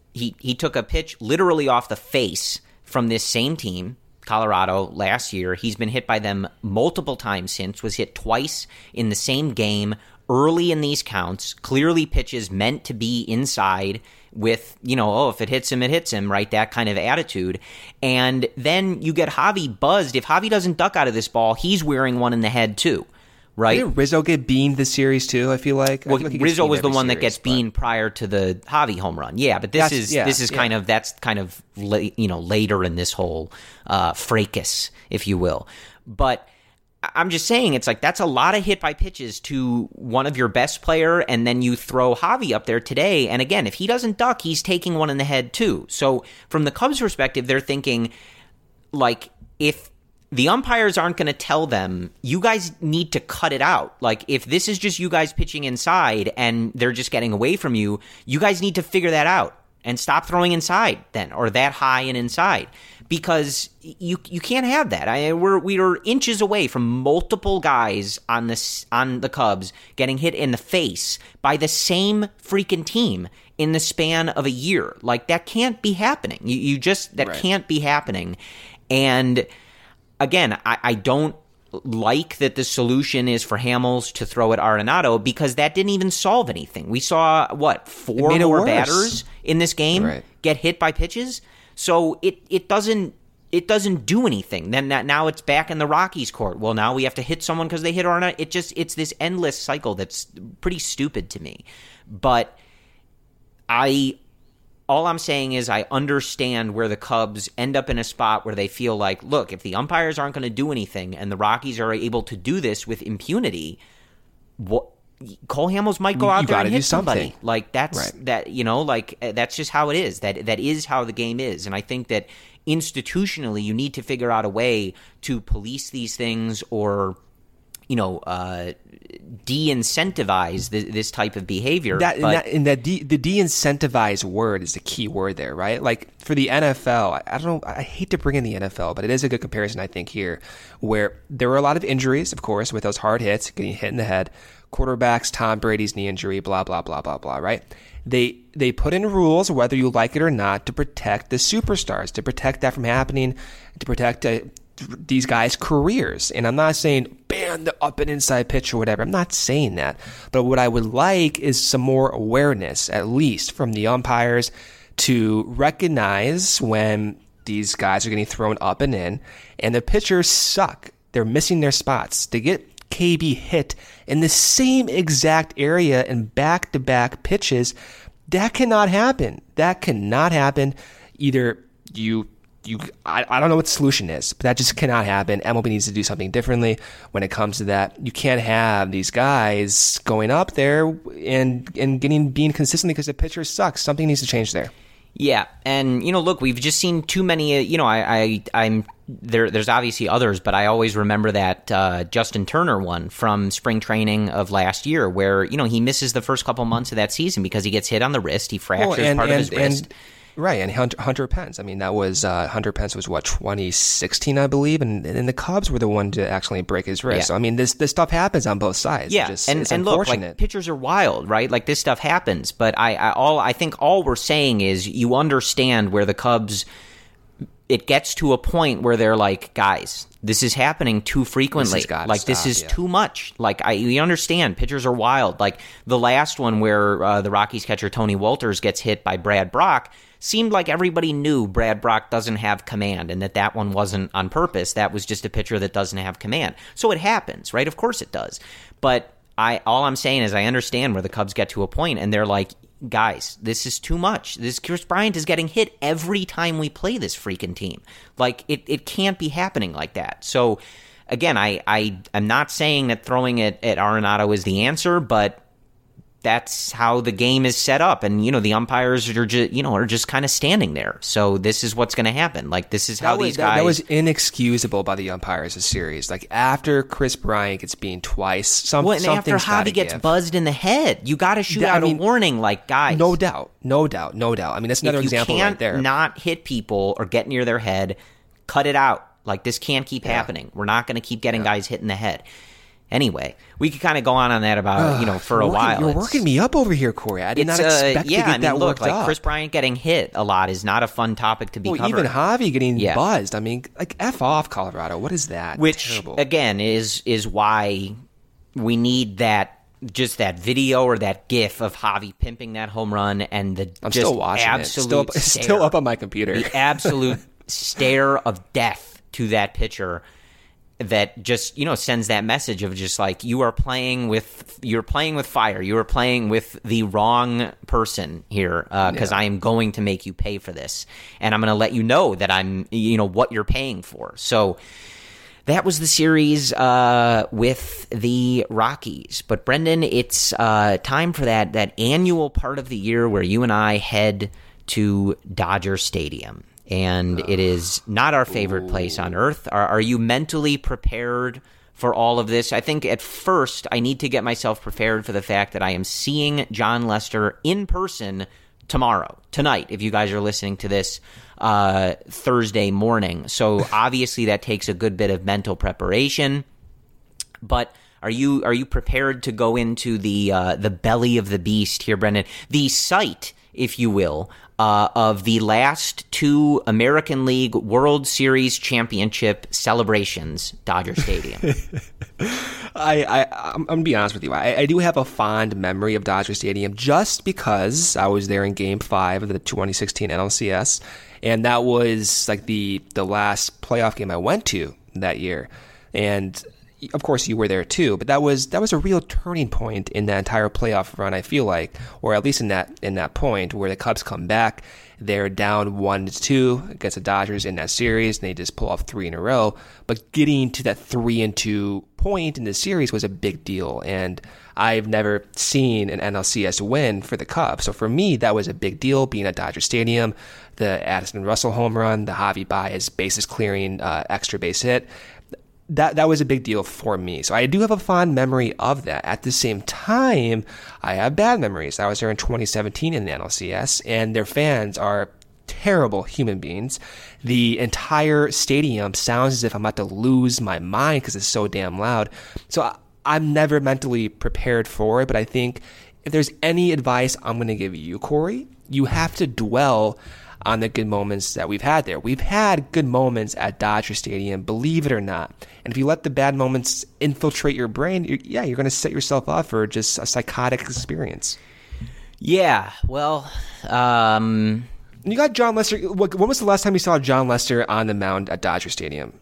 he, he took a pitch literally off the face from this same team, Colorado, last year. He's been hit by them multiple times since, was hit twice in the same game early in these counts, clearly pitches meant to be inside with, you know, oh, if it hits him, it hits him, right? That kind of attitude. And then you get Javi buzzed. If Javi doesn't duck out of this ball, he's wearing one in the head too, right? Didn't Rizzo get beaned this series too, I feel like? Well, I feel like Rizzo was the one series, that gets but... beaned prior to the Javi home run. Yeah, but this that's, is yeah, this is yeah. kind of, that's kind of, la- you know, later in this whole uh, fracas, if you will. But I'm just saying, it's like that's a lot of hit by pitches to one of your best player, and then you throw Javi up there today. And again, if he doesn't duck, he's taking one in the head too. So from the Cubs' perspective, they're thinking, like, if the umpires aren't going to tell them, you guys need to cut it out. Like, if this is just you guys pitching inside and they're just getting away from you, you guys need to figure that out and stop throwing inside then, or that high and inside. Because you you can't have that. I we're we are inches away from multiple guys on this on the Cubs getting hit in the face by the same freaking team in the span of a year. Like, that can't be happening. You you just that right. can't be happening. And again, I, I don't like that the solution is for Hamels to throw at Arenado, because that didn't even solve anything. We saw what four more batters in this game right. get hit by pitches. So it, it doesn't it doesn't do anything. Then that now it's back in the Rockies' court. Well, now we have to hit someone because they hit Arenado. It just it's this endless cycle that's pretty stupid to me. But I all I'm saying is I understand where the Cubs end up in a spot where they feel like, look, if the umpires aren't going to do anything and the Rockies are able to do this with impunity, what? Cole Hamels might go you, out you there and hit somebody. somebody. Like, that's right. that, you know, like that's just how it is. That that is how the game is. And I think that institutionally you need to figure out a way to police these things, or, you know, uh, de-incentivize this, this type of behavior. That, but, and that, and that de, the de-incentivize word is the key word there, right? Like, for the N F L, I, I don't know, I hate to bring in the N F L, but it is a good comparison, I think, here, where there were a lot of injuries, of course, with those hard hits, getting hit in the head. Quarterbacks, Tom Brady's knee injury, blah, blah, blah, blah, blah, right? They they put in rules, whether you like it or not, to protect the superstars, to protect that from happening, to protect uh, these guys' careers. And I'm not saying ban the up and inside pitch or whatever. I'm not saying that. But what I would like is some more awareness, at least from the umpires, to recognize when these guys are getting thrown up and in, and the pitchers suck. They're missing their spots. They get K B hit in the same exact area in back-to-back pitches. That cannot happen. That cannot happen. Either you, you, I, I don't know what the solution is, but that just cannot happen. M L B needs to do something differently when it comes to that. You can't have these guys going up there and and getting being consistently because the pitcher sucks. Something needs to change there. Yeah, and you know, look, we've just seen too many. Uh, you know, I, I, I'm there. There's obviously others, but I always remember that uh, Justin Turner one from spring training of last year, where you know he misses the first couple months of that season because he gets hit on the wrist. He fractures well, and, part and, of his wrist. And, right, and Hunter, Hunter Pence. I mean, that was uh, Hunter Pence was what twenty sixteen, I believe, and and the Cubs were the one to actually break his wrist. Yeah. So I mean, this this stuff happens on both sides. Yeah, just, and it's and look, unfortunate. like pitchers are wild, right? Like this stuff happens, but I, I all I think all we're saying is you understand where the Cubs. It gets to a point where they're like, guys, this is happening too frequently. This has like stop, this is yeah. too much. Like I, we understand pitchers are wild. Like the last one where uh, the Rockies catcher Tony Walters gets hit by Brad Brock seemed like everybody knew Brad Brock doesn't have command, and that that one wasn't on purpose. That was just a pitcher that doesn't have command. So it happens, right? Of course it does. But I, all I'm saying is I understand where the Cubs get to a point, and they're like, guys, this is too much. This Chris Bryant is getting hit every time we play this freaking team. Like it, it can't be happening like that. So again, I, I am not saying that throwing it at Arenado is the answer, but that's how the game is set up. And, you know, the umpires are just, you know, are just kind of standing there. So this is what's going to happen. Like, this is how that was, these guys... That, that was inexcusable by the umpires this series. Like, after Chris Bryant gets beamed twice, some, well, and after something's Javi gotta gets give. buzzed in the head, you got to shoot That- I out mean, a warning, like, guys. No doubt. No doubt. No doubt. I mean, that's another if you example can't right there. not hit people or get near their head, cut it out. Like, this can't keep Yeah. happening. We're not going to keep getting Yeah. guys hit in the head. Anyway, we could kind of go on on that about, you know, for a working, while. You're It's, working me up over here, Corey. I did not expect uh, yeah, to get I mean, that look, worked like up. Chris Bryant getting hit a lot is not a fun topic to be well, covering. even Javi getting Yeah. buzzed. I mean, like, F off, Colorado. What is that? Which, Terrible. again, is is why we need that, just that video or that GIF of Javi pimping that home run and the I'm just still watching absolute it. Still, up, stare, still up on my computer. the absolute stare of death to that pitcher that just, you know, sends that message of just like, you are playing with you're playing with fire. You are playing with the wrong person here because uh, Yeah. I am going to make you pay for this, and I'm going to let you know that I'm, you know, what you're paying for. So that was the series uh, with the Rockies. But Brendan, it's uh, time for that that annual part of the year where you and I head to Dodger Stadium. And it is not our favorite place on earth. Are, are you mentally prepared for all of this? I think at first I need to get myself prepared for the fact that I am seeing Jon Lester in person tomorrow, tonight, if you guys are listening to this uh, Thursday morning. So obviously that takes a good bit of mental preparation. But are you are you prepared to go into the uh, the belly of the beast here, Brendan? The site, if you will, uh, of the last two American League World Series championship celebrations, Dodger Stadium. I, I, I'm, I'm going to be honest with you. I, I do have a fond memory of Dodger Stadium just because I was there in Game five of the twenty sixteen N L C S, and that was like the, the last playoff game I went to that year. And of course, you were there too, but that was that was a real turning point in that entire playoff run, I feel like, or at least in that in that point where the Cubs come back. They're down one to two against the Dodgers in that series, and they just pull off three in a row. But getting to that three and two point in the series was a big deal, and I've never seen an N L C S win for the Cubs. So for me, that was a big deal, being at Dodger Stadium. The Addison Russell home run, the Javi Baez bases clearing uh, extra base hit. That that was a big deal for me. So I do have a fond memory of that. At the same time, I have bad memories. I was there in twenty seventeen in the N L C S, and their fans are terrible human beings. The entire stadium sounds as if I'm about to lose my mind because it's so damn loud. So I, I'm never mentally prepared for it, but I think if there's any advice I'm going to give you, Corey, you have to dwell on the good moments that we've had there. We've had good moments at Dodger Stadium, believe it or not. And if you let the bad moments infiltrate your brain, you're, yeah, you're going to set yourself up for just a psychotic experience. Yeah, well, um... You got Jon Lester. When was the last time you saw Jon Lester on the mound at Dodger Stadium?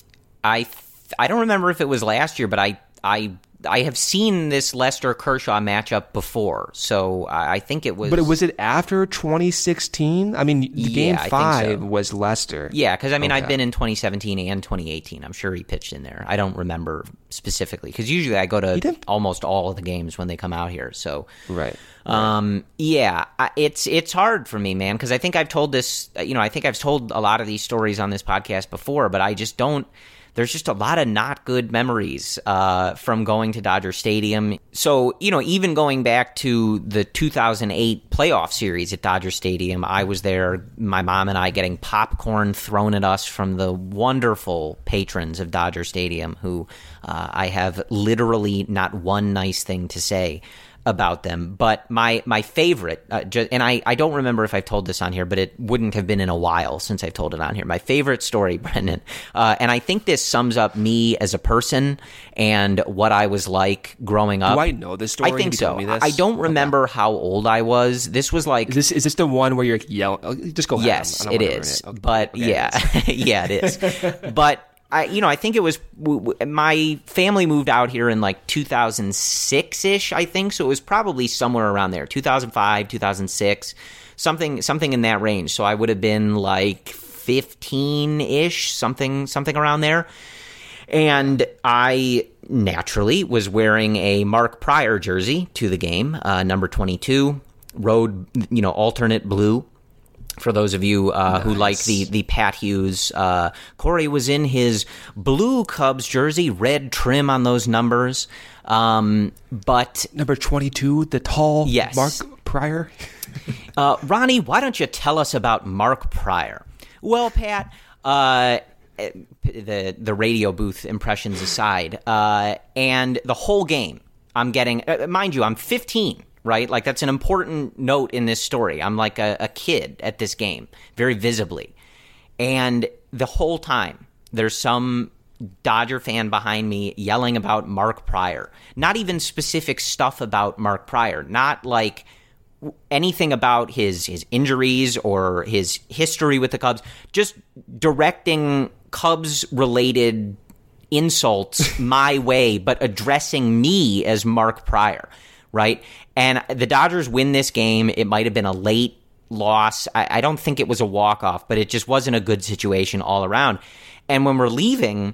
I I don't remember if it was last year, but I I I have seen this Lester Kershaw matchup before, so I think it was. But was it after twenty sixteen? I mean, the yeah, game I five think so. was Lester. Yeah, because I mean, Okay. I've been in twenty seventeen and twenty eighteen. I'm sure he pitched in there. I don't remember specifically because usually I go to almost all of the games when they come out here. So right. Um, yeah, I- it's it's hard for me, man, because I think I've told this, you know, I think I've told a lot of these stories on this podcast before, but I just don't, there's just a lot of not good memories uh, from going to Dodger Stadium. So, you know, even going back to the two thousand eight playoff series at Dodger Stadium, I was there, my mom and I getting popcorn thrown at us from the wonderful patrons of Dodger Stadium who uh, I have literally not one nice thing to say about them. But my my favorite, uh, ju- and I, I don't remember if I've told this on here, but it wouldn't have been in a while since I've told it on here. My favorite story, Brendan, uh, and I think this sums up me as a person and what I was like growing up. Do I know this story? I think Have you so. told me this? I don't remember how old I was. This was like... Is this is this the one where you're yelling? Just go ahead. Yes, I don't it wanna ruin is. Okay. But Okay, yeah, it is. yeah, it is. But I, you know, I think it was w- w- my family moved out here in like two thousand six ish, I think. So it was probably somewhere around there, two thousand five, two thousand six, something, something in that range. So I would have been like fifteen ish, something, something around there. And I naturally was wearing a Mark Pryor jersey to the game, uh, number twenty-two, road, you know, alternate blue. For those of you uh, nice. who like the, the Pat Hughes, uh, Corey was in his blue Cubs jersey, red trim on those numbers. Um, but number twenty-two, the tall yes. Mark Pryor. uh, Ronnie, why don't you tell us about Mark Pryor? Well, Pat, uh, the the radio booth impressions aside, uh, and the whole game, I'm getting, uh, mind you, I'm fifteen, right? Like, that's an important note in this story. I'm like a, a kid at this game, very visibly. And the whole time, there's some Dodger fan behind me yelling about Mark Prior. Not even specific stuff about Mark Prior. Not like anything about his, his injuries or his history with the Cubs. Just directing Cubs-related insults my way, but addressing me as Mark Prior, right? And the Dodgers win this game. It might have been a late loss. I, I don't think it was a walk-off, but it just wasn't a good situation all around. And when we're leaving,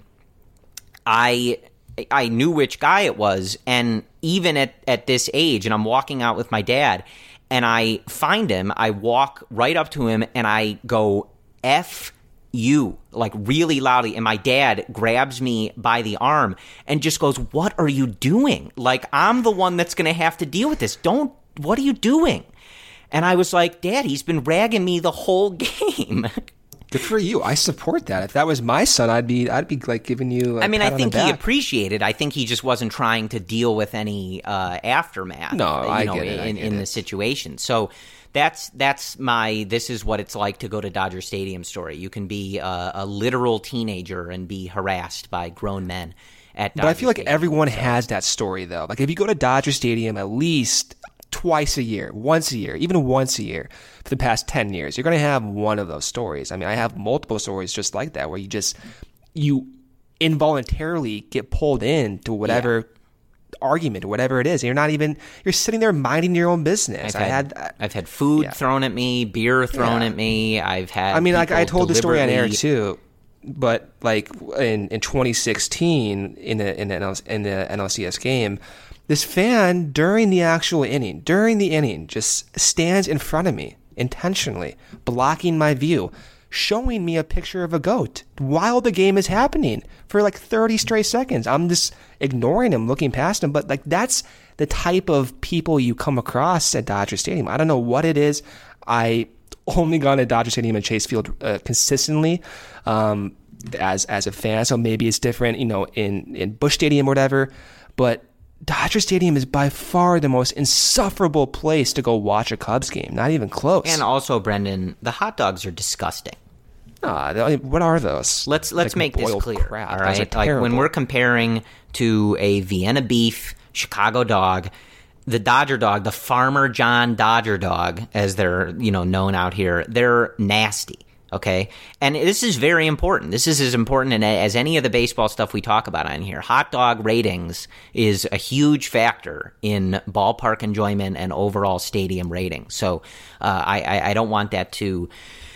I I knew which guy it was, and even at, at this age, and I'm walking out with my dad, and I find him, I walk right up to him, and I go, F you, like really loudly, and my dad grabs me by the arm and just goes, what are you doing? Like, I'm the one that's going to have to deal with this. Don't, what are you doing? And I was like, Dad, he's been ragging me the whole game. Good for you. I support that. If that was my son, I'd be I'd be like giving you a I mean, pat I on think the he back. appreciated. I think he just wasn't trying to deal with any uh, aftermath. No, you I know, get it. I in, get in it. the situation. So that's that's my this is what it's like to go to Dodger Stadium story. You can be a, a literal teenager and be harassed by grown men at Dodger But I feel like Stadium. everyone So- has that story, though. Like, if you go to Dodger Stadium at least twice a year, once a year, even once a year for the past ten years, you're going to have one of those stories. I mean, I have multiple stories just like that where you just, you involuntarily get pulled into whatever yeah. argument or whatever it is. And you're not even, you're sitting there minding your own business. I've I had, had, I've had food yeah. thrown at me, beer thrown Yeah. at me. I've had I mean, like I people told the story on air deliberately- too, but like in, in twenty sixteen in the in the, N L, in the N L C S game, this fan during the actual inning, during the inning, just stands in front of me intentionally, blocking my view, showing me a picture of a goat while the game is happening for like thirty straight seconds. I'm just ignoring him, looking past him, but like that's the type of people you come across at Dodger Stadium. I don't know what it is. I only gone to Dodger Stadium and Chase Field uh, consistently um, as as a fan, so maybe it's different, you know, in, in Busch Stadium or whatever, but Dodger Stadium is by far the most insufferable place to go watch a Cubs game. Not even close. And also, Brendan, the hot dogs are disgusting. Ah, they- what are those? Let's let's Like make this boiled clear. crap. All Those are right, like when terrible. we're comparing to a Vienna beef Chicago dog, the Dodger dog, the Farmer John Dodger dog, as they're you know known out here, they're nasty. Okay, and this is very important. This is as important as any of the baseball stuff we talk about on here. Hot dog ratings is a huge factor in ballpark enjoyment and overall stadium rating. So uh, I, I I don't want that to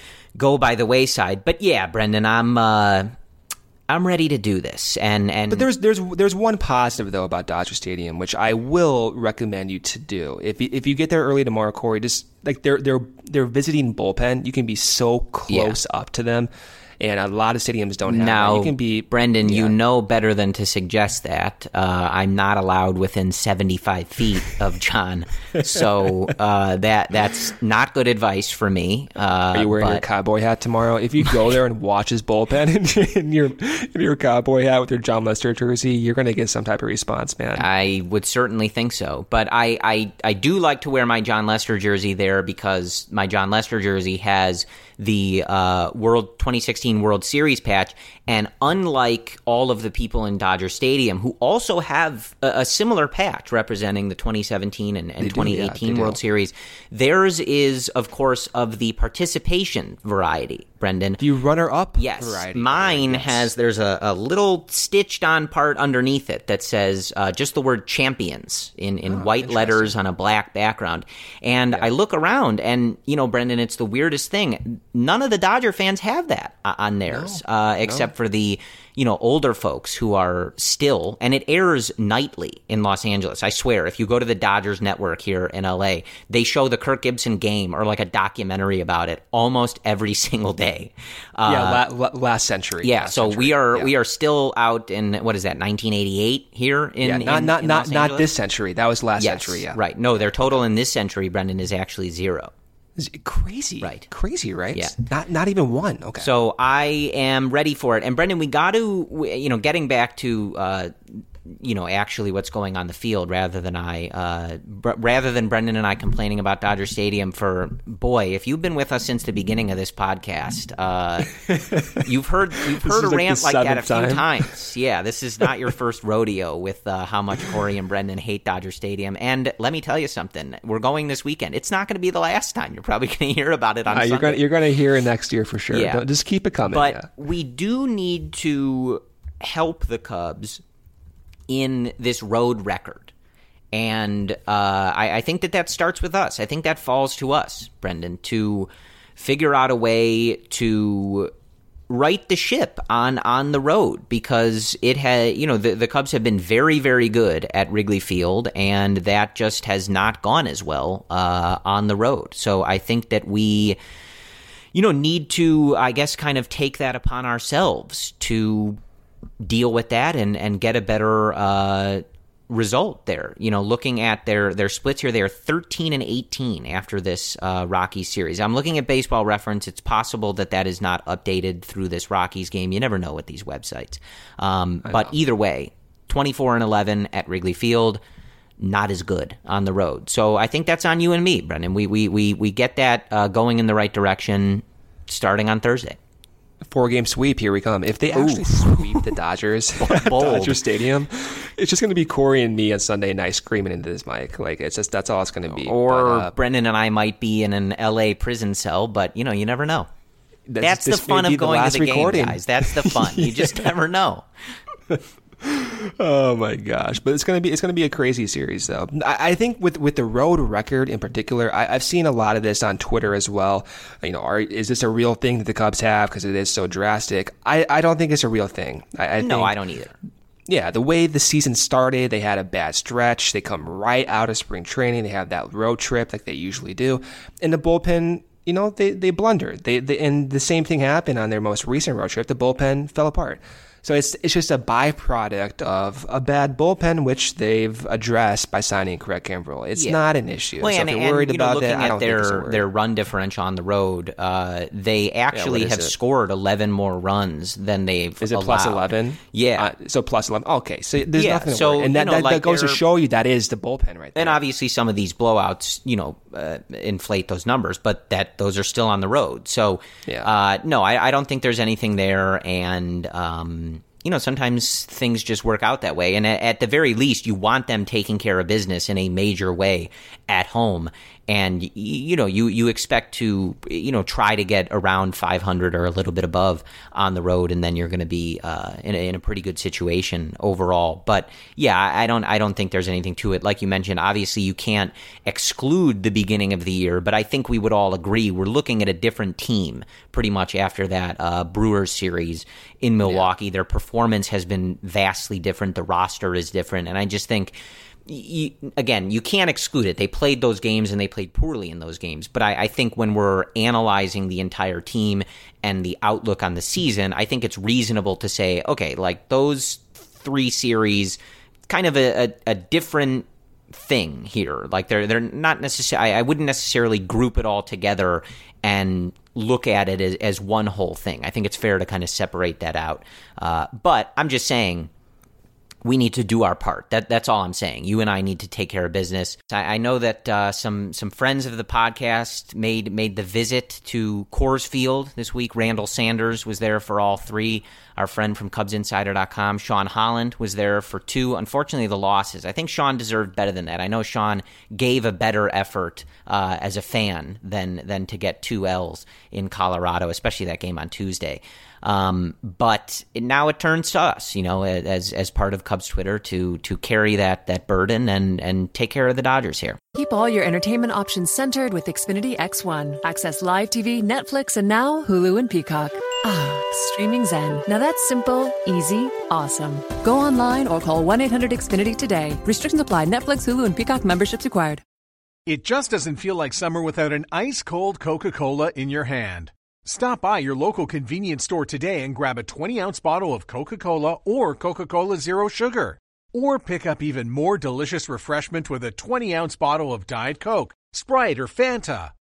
go by the wayside. But yeah, Brendan, I'm uh, I'm ready to do this. And and But there's there's there's one positive though about Dodger Stadium, which I will recommend you to do. If you, if you get there early tomorrow, Corey, just like they're they're they're visiting bullpen, you can be so close Yeah. up to them, and a lot of stadiums don't have now, that. You can be Brendan, yeah. you know better than to suggest that. Uh, I'm not allowed within seventy-five feet of John, so uh, that that's not good advice for me. Uh, Are you wearing but your cowboy hat tomorrow? If you go there and watch his bullpen in, in your in your cowboy hat with your John Lester jersey, you're going to get some type of response, man. I would certainly think so. But I, I, I do like to wear my John Lester jersey there because my John Lester jersey has the uh, World twenty sixteen World Series patch. And unlike all of the people in Dodger Stadium who also have a, a similar patch representing the twenty seventeen and, and They do, twenty yeah, eighteen they World do. Series, theirs is, of course, of the participation variety, Brendan. Do you runner-up Yes. variety? Mine Yes. has, there's a, a little stitched on part underneath it that says uh, just the word champions in, in Oh, white letters on a black background. And I look around and, you know, Brendan, it's the weirdest thing. None of the Dodger fans have that uh, on theirs, No, uh, except no. for the, you know, older folks who are still, and it airs nightly in Los Angeles. I swear, if you go to the Dodgers network here in L A, they show the Kirk Gibson game or like a documentary about it almost every single day. Uh, Yeah, la- la- last century. yeah, last so century. we are Yeah. we are still out in what is that, nineteen eighty-eight here in yeah, not in, not in not Los not Angeles? this century. That was last Yes, century. Yeah, right. No, their total in this century, Brendan, is actually zero. Crazy. Right. Crazy, right? Yeah. Not not even one. Okay. So I am ready for it. And Brendan, we got to, you know, getting back to, uh, you know, actually what's going on the field rather than I, uh, br- rather than Brendan and I complaining about Dodger Stadium for, boy, if you've been with us since the beginning of this podcast, uh, you've heard, you've heard a like rant like that a time. few times. Yeah, this is not your first rodeo with uh, how much Corey and Brendan hate Dodger Stadium. And let me tell you something, we're going this weekend. It's not going to be the last time. You're probably going to hear about it on uh, Sunday. You're going you're going to hear it next year for sure. Yeah. Don't, just keep it coming. But yeah. we do need to help the Cubs in this road record. And uh, I, I think that that starts with us. I think that falls to us, Brendan, to figure out a way to right the ship on, on the road, because it had, you know, the, the Cubs have been very, very good at Wrigley Field, and that just has not gone as well uh, on the road. So I think that we, you know, need to, I guess, kind of take that upon ourselves to deal with that and, and get a better uh, result there. You know, looking at their, their splits here, they are thirteen and eighteen after this uh, Rockies series. I'm looking at Baseball Reference. It's possible that that is not updated through this Rockies game. You never know with these websites. Um, but know. Either way, twenty-four and eleven at Wrigley Field, not as good on the road. So I think that's on you and me, Brendan. We we we, we get that uh, going in the right direction starting on Thursday. Four-game sweep, here we come. If they actually Ooh. sweep the Dodgers at Dodger Stadium, it's just going to be Corey and me on Sunday night screaming into this mic. Like, it's just, that's all it's going to be. Or but, uh, Brendan and I might be in an L A prison cell, but, you know, you never know. That's, that's the fun of going to the recording. game, guys. That's the fun. You just never know. Oh my gosh! But it's gonna be it's gonna be a crazy series, though. I, I think with with the road record in particular, I, I've seen a lot of this on Twitter as well. You know, are, is this a real thing that the Cubs have because it is so drastic? I, I don't think it's a real thing. I, I no, think, I don't either. Yeah, the way the season started, they had a bad stretch. They come right out of spring training. They have that road trip like they usually do, and the bullpen. You know, they they blundered. They, they and the same thing happened on their most recent road trip. The bullpen fell apart. So it's it's just a byproduct of a bad bullpen, which they've addressed by signing Craig Kimbrel. It's yeah. not an issue. Well, so and, if you're worried and, you know, about looking that, at I don't their, think it's their run differential on the road, uh, they actually yeah, have it? scored eleven more runs than they've Is it allowed. plus eleven? Yeah. Uh, so plus eleven. Okay, so there's yeah, nothing to so, worry. And that, you know, that, like that goes to show you that is the bullpen right there. And obviously some of these blowouts, you know, uh, inflate those numbers, but that those are still on the road. So, yeah. uh, no, I, I don't think there's anything there. And, um, you know, sometimes things just work out that way. And at, at the very least, you want them taking care of business in a major way at home. And, you know, you, you expect to, you know, try to get around five hundred or a little bit above on the road, and then you're going to be uh, in, a, in a pretty good situation overall. But, yeah, I don't I don't think there's anything to it. Like you mentioned, obviously you can't exclude the beginning of the year, but I think we would all agree we're looking at a different team pretty much after that uh, Brewers series in Milwaukee. Yeah. Their performance has been vastly different. The roster is different. And I just think... You, again, you can't exclude it. They played those games and they played poorly in those games. But I, I think when we're analyzing the entire team and the outlook on the season, I think it's reasonable to say, okay, like those three series, kind of a, a, a different thing here. Like they're they're not necessarily. I, I wouldn't necessarily group it all together and look at it as, as one whole thing. I think it's fair to kind of separate that out. Uh, but I'm just saying. We need to do our part. That that's all I'm saying. You and I need to take care of business. I, I know that uh, some some friends of the podcast made made the visit to Coors Field this week. Randall Sanders was there for all three. Our friend from Cubs Insider dot com, Sean Holland, was there for two. Unfortunately, the losses. I think Sean deserved better than that. I know Sean gave a better effort uh, as a fan than than to get two L's in Colorado, especially that game on Tuesday. Um, but it, now it turns to us, you know, as as part of Cubs Twitter to to carry that that burden and and take care of the Dodgers here. Keep all your entertainment options centered with Xfinity X one. Access live T V, Netflix, and now Hulu and Peacock. Ah, streaming zen. Now that's simple, easy, awesome. Go online or call one eight hundred X Finity today. Restrictions apply. Netflix, Hulu, and Peacock memberships required. It just doesn't feel like summer without an ice-cold Coca-Cola in your hand. Stop by your local convenience store today and grab a twenty-ounce bottle of Coca-Cola or Coca-Cola Zero Sugar. Or pick up even more delicious refreshment with a twenty-ounce bottle of Diet Coke, Sprite, or Fanta.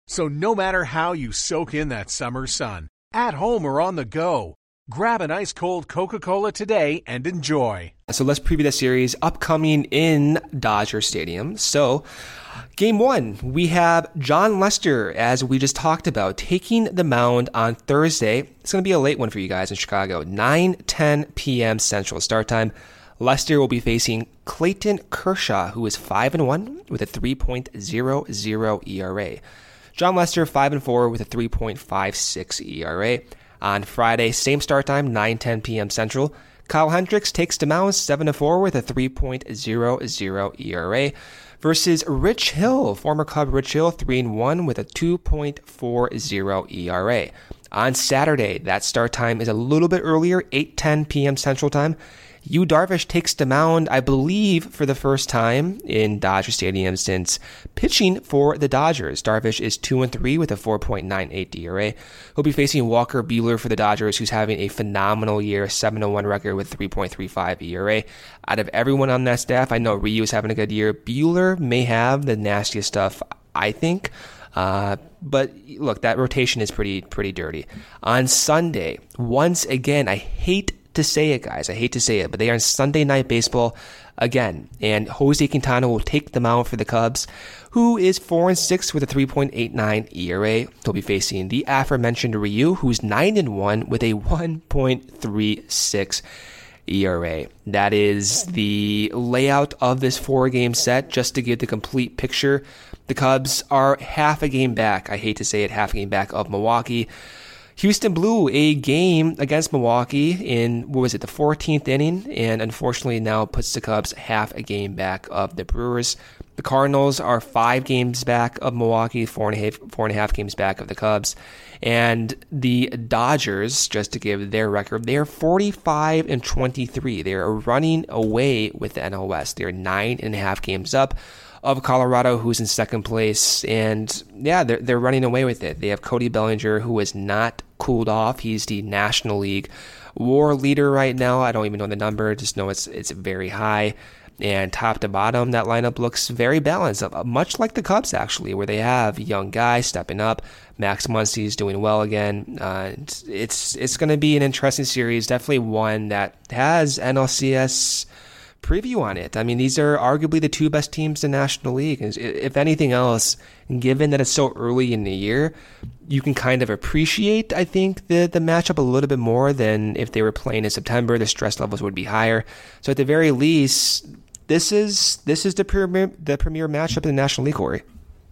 So no matter how you soak in that summer sun, at home or on the go, grab an ice-cold Coca-Cola today and enjoy. So let's preview the series upcoming in Dodger Stadium. So game one, we have Jon Lester, as we just talked about, taking the mound on Thursday. It's going to be a late one for you guys in Chicago. nine ten p.m. Central start time. Lester will be facing Clayton Kershaw, who is five and one with a three point oh oh E R A. Jon Lester, five and four with a three point five six E R A. On Friday, same start time, nine ten p.m. Central. Kyle Hendricks takes the mound, seven and four with a three point oh oh E R A. Versus Rich Hill, former Cub Rich Hill, three and one with a two point four oh E R A. On Saturday, that start time is a little bit earlier, eight ten p.m. Central Time. Yu Darvish takes the mound, I believe, for the first time in Dodger Stadium since pitching for the Dodgers. Darvish is two and three with a four point nine eight E R A. He'll be facing Walker Buehler for the Dodgers, who's having a phenomenal year, seven and one record with three point three five E R A. Out of everyone on that staff, I know Ryu is having a good year. Buehler may have the nastiest stuff, I think. Uh, but look, that rotation is pretty pretty dirty. On Sunday, once again, I hate to say it, guys. I hate to say it, but they are on Sunday Night Baseball again, and Jose Quintana will take the mound for the Cubs, who is four and six with a three point eight nine E R A. He'll be facing the aforementioned Ryu, who's nine and one with a one point three six E R A. That is the layout of this four-game set. Just to give the complete picture, the Cubs are half a game back. I hate to say it, half a game back of Milwaukee. Houston blew a game against Milwaukee in, what was it, the fourteenth inning, and unfortunately now puts the Cubs half a game back of the Brewers. The Cardinals are five games back of Milwaukee, four and a half, four and a half games back of the Cubs. And the Dodgers, just to give their record, they are forty-five and twenty-three. They are running away with the N L West. They are nine and a half games up of Colorado, who's in second place. And yeah, they're, they're running away with it. They have Cody Bellinger, who is not cooled off. He's the National League WAR leader right now. I don't even know the number, just know it's it's very high. And top to bottom, that lineup looks very balanced, much like the Cubs, actually, where they have young guys stepping up. Max Muncy's doing well again. Uh, it's it's going to be an interesting series, definitely one that has N L C S preview on it. I mean, these are arguably the two best teams in the National League. If anything else, given that it's so early in the year, you can kind of appreciate, I think, the, the matchup a little bit more than if they were playing in September. The stress levels would be higher. So at the very least, this is this is the premier the premier matchup in the National League, Corey.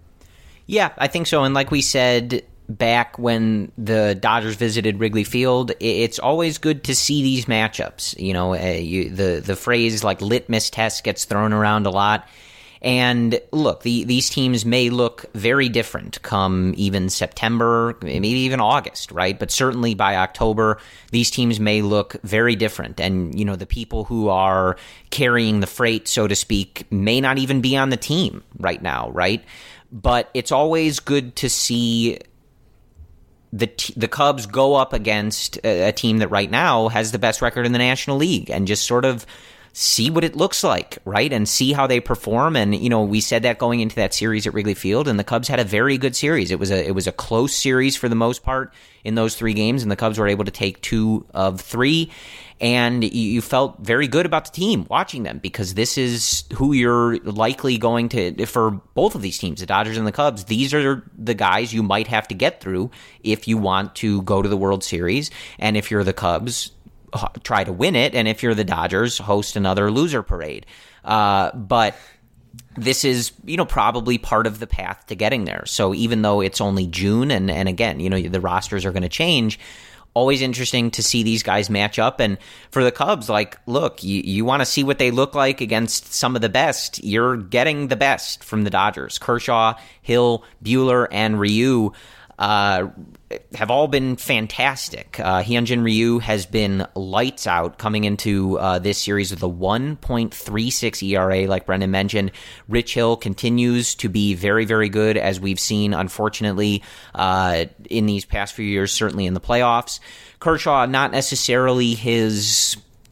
Yeah, I think so. And like we said back when the Dodgers visited Wrigley Field, it's always good to see these matchups. You know, uh, you, the the phrase like litmus test gets thrown around a lot. And look, the, these teams may look very different come even September, maybe even August, right? But certainly by October, these teams may look very different. And, you know, the people who are carrying the freight, so to speak, may not even be on the team right now, right? But it's always good to see the t- the Cubs go up against a, a team that right now has the best record in the National League and just sort of see what it looks like, right? And see how they perform. And, you know, we said that going into that series at Wrigley Field, and the Cubs had a very good series. It was a it was a close series for the most part in those three games, and the Cubs were able to take two of three. And you felt very good about the team watching them because this is who you're likely going to, for both of these teams, the Dodgers and the Cubs, these are the guys you might have to get through if you want to go to the World Series. And if you're the Cubs, try to win it, and if you're the Dodgers, host another loser parade. Uh, but this is, you know, probably part of the path to getting there. So even though it's only June, and, and again, you know, the rosters are going to change, always interesting to see these guys match up. And for the Cubs, like, look, you, you want to see what they look like against some of the best. You're getting the best from the Dodgers. Kershaw, Hill, Buehler, and Ryu uh, have all been fantastic. Uh, Hyunjin Ryu has been lights out coming into uh, this series with a one point three six E R A, like Brendan mentioned. Rich Hill continues to be very, very good, as we've seen, unfortunately, uh, in these past few years, certainly in the playoffs. Kershaw, not necessarily his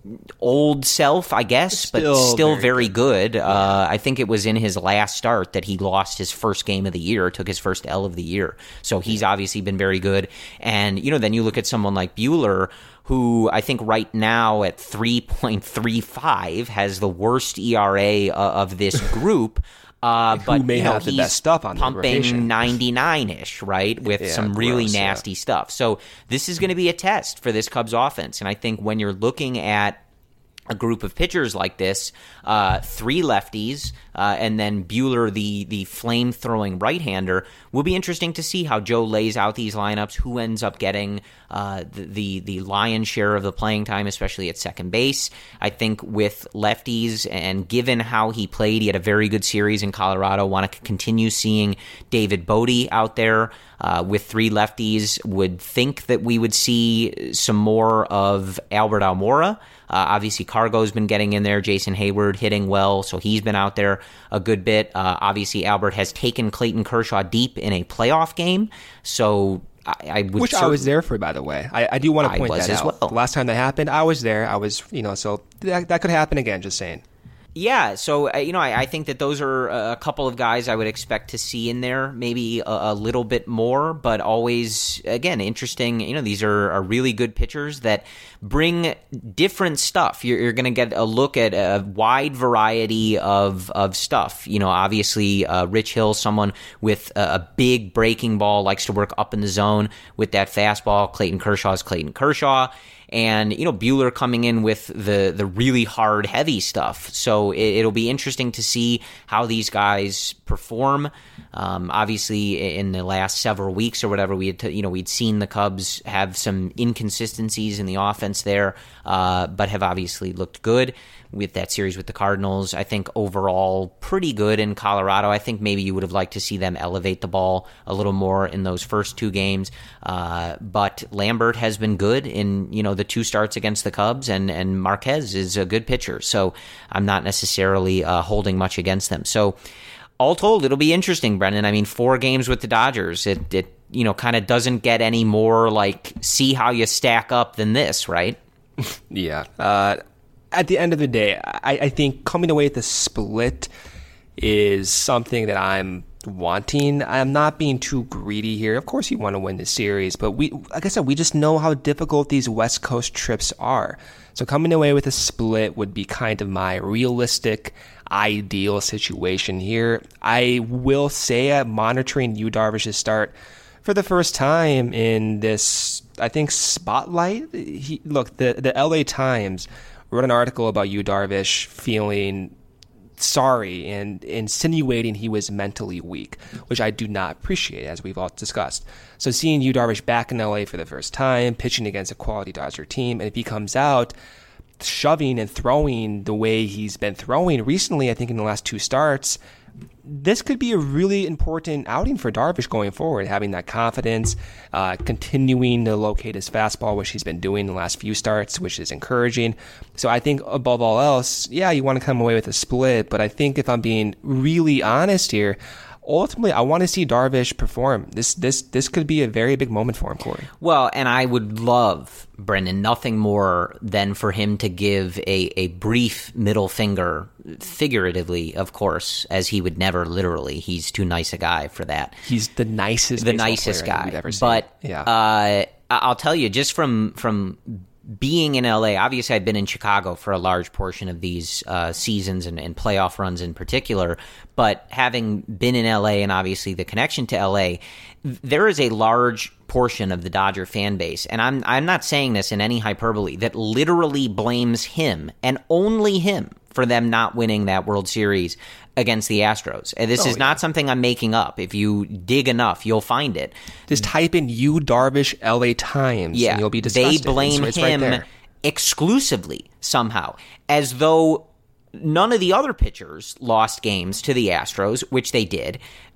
old self, I guess, Still but still very very good. good. Yeah. Uh, I think it was in his last start that he lost his first game of the year, took his first L of the year. So he's obviously been very good. And, you know, then you look at someone like Buehler, who I think right now at three point three five has the worst E R A uh, of this group. Uh, but Who may you know, have the he's best stuff on the pumping ninety-nine-ish, right, with Yeah, some really gross, nasty yeah. stuff. So this is going to be a test for this Cubs offense. And I think when you're looking at a group of pitchers like this, uh, three lefties, uh, and then Buehler, the the flame-throwing right-hander, will be interesting to see how Joe lays out these lineups, who ends up getting uh, the, the the lion's share of the playing time, especially at second base. I think with lefties, and given how he played, he had a very good series in Colorado. Want to continue seeing David Bodie out there uh, with three lefties. Would think that we would see some more of Albert Almora. Uh, obviously, Cargo's been getting in there. Jason Hayward hitting well, so he's been out there a good bit. Uh, obviously, Albert has taken Clayton Kershaw deep in a playoff game, so I, I would. Which I was there for, by the way. I, I do want to point that out. Well. The last time that happened, I was there. I was, you know, so that, that could happen again, just saying. Yeah, so, uh, you know, I, I think that those are a couple of guys I would expect to see in there, maybe a, a little bit more, but always, again, interesting. You know, these are, are really good pitchers that bring different stuff. You're, you're going to get a look at a wide variety of, of stuff. You know, obviously, uh, Rich Hill, someone with a, a big breaking ball, likes to work up in the zone with that fastball. Clayton Kershaw is Clayton Kershaw. And, you know, Buehler coming in with the, the really hard, heavy stuff. So it, it'll be interesting to see how these guys perform. Um, obviously, in the last several weeks or whatever, we had, to, you know, we'd seen the Cubs have some inconsistencies in the offense there, uh, but have obviously looked good with that series with the Cardinals. I think overall pretty good in Colorado. I think maybe you would have liked to see them elevate the ball a little more in those first two games. Uh, but Lambert has been good in, you know, the two starts against the Cubs, and, and Marquez is a good pitcher. So I'm not necessarily uh, holding much against them. So all told, it'll be interesting, Brendan. I mean, four games with the Dodgers, it, it you know, kind of doesn't get any more like see how you stack up than this, right? Yeah. Uh, at the end of the day, I, I think coming away with the split is something that I'm wanting. I'm not being too greedy here. Of course, you want to win the series, but we, like I said, we just know how difficult these West Coast trips are. So coming away with a split would be kind of my realistic, ideal situation here. I will say I'm monitoring Yu Darvish's start for the first time in this, I think, spotlight. He, look, the, the L A Times wrote an article about Yu Darvish feeling sorry and insinuating he was mentally weak, which I do not appreciate, as we've all discussed. So seeing Yu Darvish back in L A for the first time, pitching against a quality Dodger team, and if he comes out shoving and throwing the way he's been throwing recently, I think in the last two starts, this could be a really important outing for Darvish going forward, having that confidence, uh, continuing to locate his fastball, which he's been doing the last few starts, which is encouraging. So I think above all else, yeah, you want to come away with a split, but I think if I'm being really honest here, ultimately, I want to see Darvish perform. This this this could be a very big moment for him, Corey. Well, and I would love, Brendan, nothing more than for him to give a, a brief middle finger, figuratively, of course, as he would never literally. He's too nice a guy for that. He's the nicest, the nicest guy. We've ever seen. But yeah. uh, I'll tell you, just from from. being in L A, obviously I've been in Chicago for a large portion of these uh, seasons and, and playoff runs in particular, but having been in L A and obviously the connection to L A, there is a large portion of the Dodger fan base, and I'm I'm not saying this in any hyperbole, that literally blames him and only him for them not winning that World Series against the Astros. And this oh, is not yeah. something I'm making up. If you dig enough, you'll find it. Just type in Yu Darvish L A Times, yeah, and you'll be disgusted. They blame it's him right exclusively somehow, as though none of the other pitchers lost games to the Astros, which they did,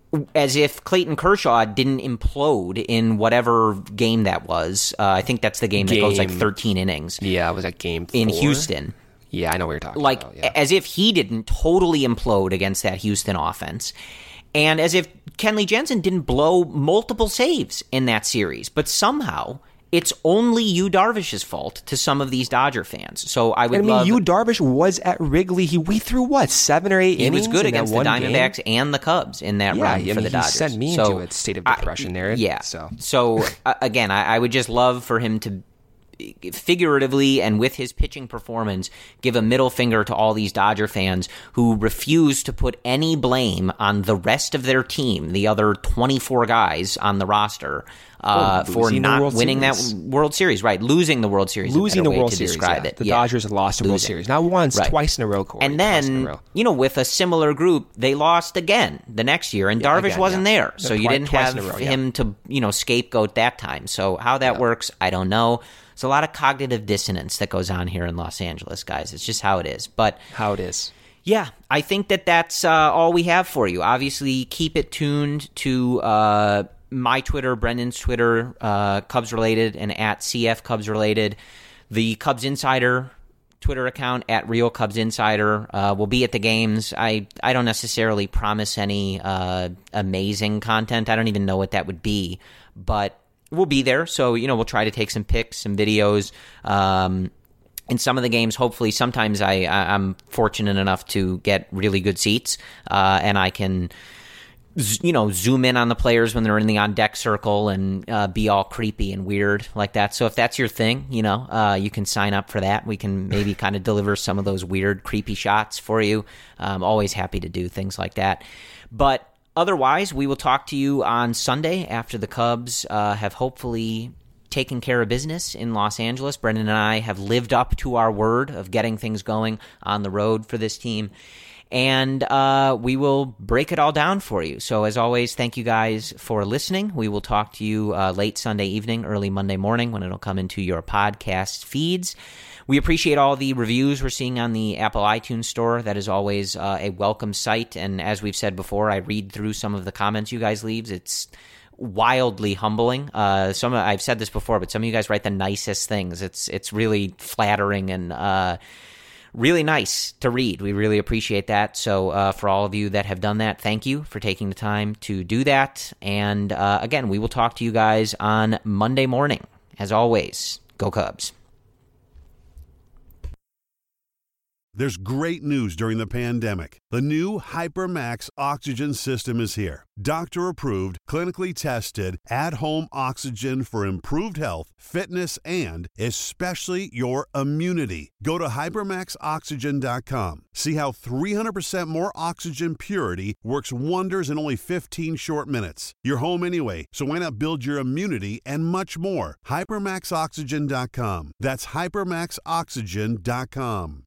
as if Clayton Kershaw didn't implode in whatever game that was. Uh, I think that's the game, game that goes like thirteen innings. Yeah, it was that game four? In Houston. Yeah, I know what you're talking like, about. Like, yeah. As if he didn't totally implode against that Houston offense. And as if Kenley Jensen didn't blow multiple saves in that series. But somehow, it's only Yu Darvish's fault to some of these Dodger fans. So I would I mean, love... Yu Darvish was at Wrigley. He we threw, what, seven or eight he innings? He was good in against that the one Diamondbacks game? and the Cubs in that yeah, run I for mean, the Dodgers. He sent me so, into a state of depression I, there. Yeah. So, so uh, again, I, I would just love for him to figuratively and with his pitching performance give a middle finger to all these Dodger fans who refuse to put any blame on the rest of their team, the other twenty-four guys on the roster, uh, oh, for not winning Series. that World Series. Right, losing the World Series. Losing the World to Series, describe yeah. it. The yeah. Dodgers have lost the World Series. Not once, right. twice in a row, Corey. And then, row. you know, with a similar group, they lost again the next year, and yeah, Darvish again, wasn't yeah. there. So twi- you didn't have row, yeah. him to, you know, scapegoat that time. So how that yeah. works, I don't know. There's a lot of cognitive dissonance that goes on here in Los Angeles, guys. It's just how it is. But how it is. Yeah, I think that that's uh, all we have for you. Obviously, keep it tuned to uh, my Twitter, Brendan's Twitter, uh, Cubs related, and at C F Cubs related. The Cubs Insider Twitter account at Real Cubs Insider uh, will be at the games. I, I don't necessarily promise any uh, amazing content. I don't even know what that would be, but we'll be there. So, you know, we'll try to take some pics, some videos. Um, in some of the games, hopefully, sometimes I, I, I'm fortunate enough to get really good seats, uh, and I can, you know, zoom in on the players when they're in the on-deck circle and uh, be all creepy and weird like that. So if that's your thing, you know, uh, you can sign up for that. We can maybe kind of deliver some of those weird, creepy shots for you. I'm always happy to do things like that. But otherwise, we will talk to you on Sunday after the Cubs uh, have hopefully taken care of business in Los Angeles. Brendan and I have lived up to our word of getting things going on the road for this team. And uh, we will break it all down for you. So as always, thank you guys for listening. We will talk to you uh, late Sunday evening, early Monday morning when it'll come into your podcast feeds. We appreciate all the reviews we're seeing on the Apple iTunes store. That is always uh, a welcome sight. And as we've said before, I read through some of the comments you guys leave. It's wildly humbling. Uh, some I've said this before, but some of you guys write the nicest things. It's it's really flattering and uh, really nice to read. We really appreciate that. So uh, for all of you that have done that, thank you for taking the time to do that. And uh, again, we will talk to you guys on Monday morning. As always, go Cubs. There's great news during the pandemic. The new HyperMax oxygen system is here. Doctor-approved, clinically tested, at-home oxygen for improved health, fitness, and especially your immunity. Go to hypermax oxygen dot com. See how three hundred percent more oxygen purity works wonders in only fifteen short minutes. You're home anyway, so why not build your immunity and much more? hypermax oxygen dot com. That's hypermax oxygen dot com.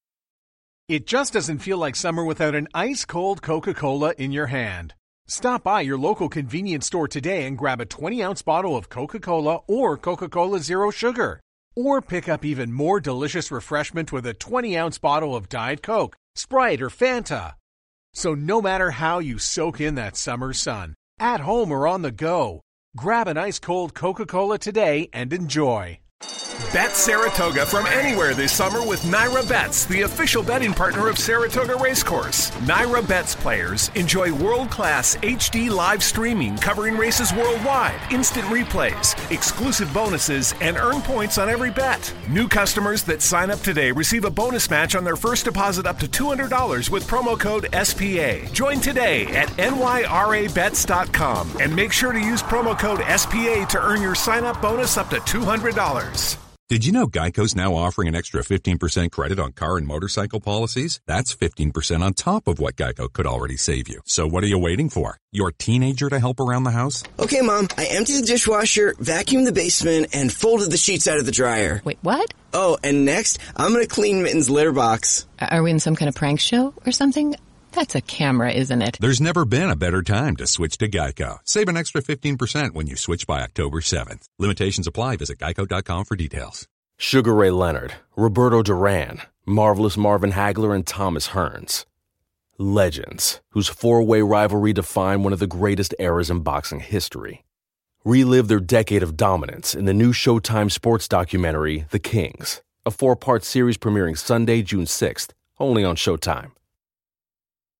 It just doesn't feel like summer without an ice-cold Coca-Cola in your hand. Stop by your local convenience store today and grab a twenty-ounce bottle of Coca-Cola or Coca-Cola Zero Sugar. Or pick up even more delicious refreshment with a twenty-ounce bottle of Diet Coke, Sprite, or Fanta. So no matter how you soak in that summer sun, at home or on the go, grab an ice-cold Coca-Cola today and enjoy. Bet Saratoga from anywhere this summer with Naira Bets, the official betting partner of Saratoga Racecourse. Naira Bets players enjoy world-class H D live streaming covering races worldwide, instant replays, exclusive bonuses, and earn points on every bet. New customers that sign up today receive a bonus match on their first deposit up to two hundred dollars with promo code S P A. Join today at N Y R A bets dot com and make sure to use promo code S P A to earn your sign-up bonus up to two hundred dollars. Did you know Geico's now offering an extra fifteen percent credit on car and motorcycle policies? That's fifteen percent on top of what Geico could already save you. So what are you waiting for? Your teenager to help around the house? Okay, Mom, I emptied the dishwasher, vacuumed the basement, and folded the sheets out of the dryer. Wait, what? Oh, and next, I'm going to clean Mitten's litter box. Are we in some kind of prank show or something? That's a camera, isn't it? There's never been a better time to switch to Geico. Save an extra fifteen percent when you switch by October seventh. Limitations apply. Visit geico dot com for details. Sugar Ray Leonard, Roberto Duran, Marvelous Marvin Hagler, and Thomas Hearns. Legends, whose four-way rivalry defined one of the greatest eras in boxing history. Relive their decade of dominance in the new Showtime sports documentary, The Kings, a four-part series premiering Sunday, June sixth, only on Showtime.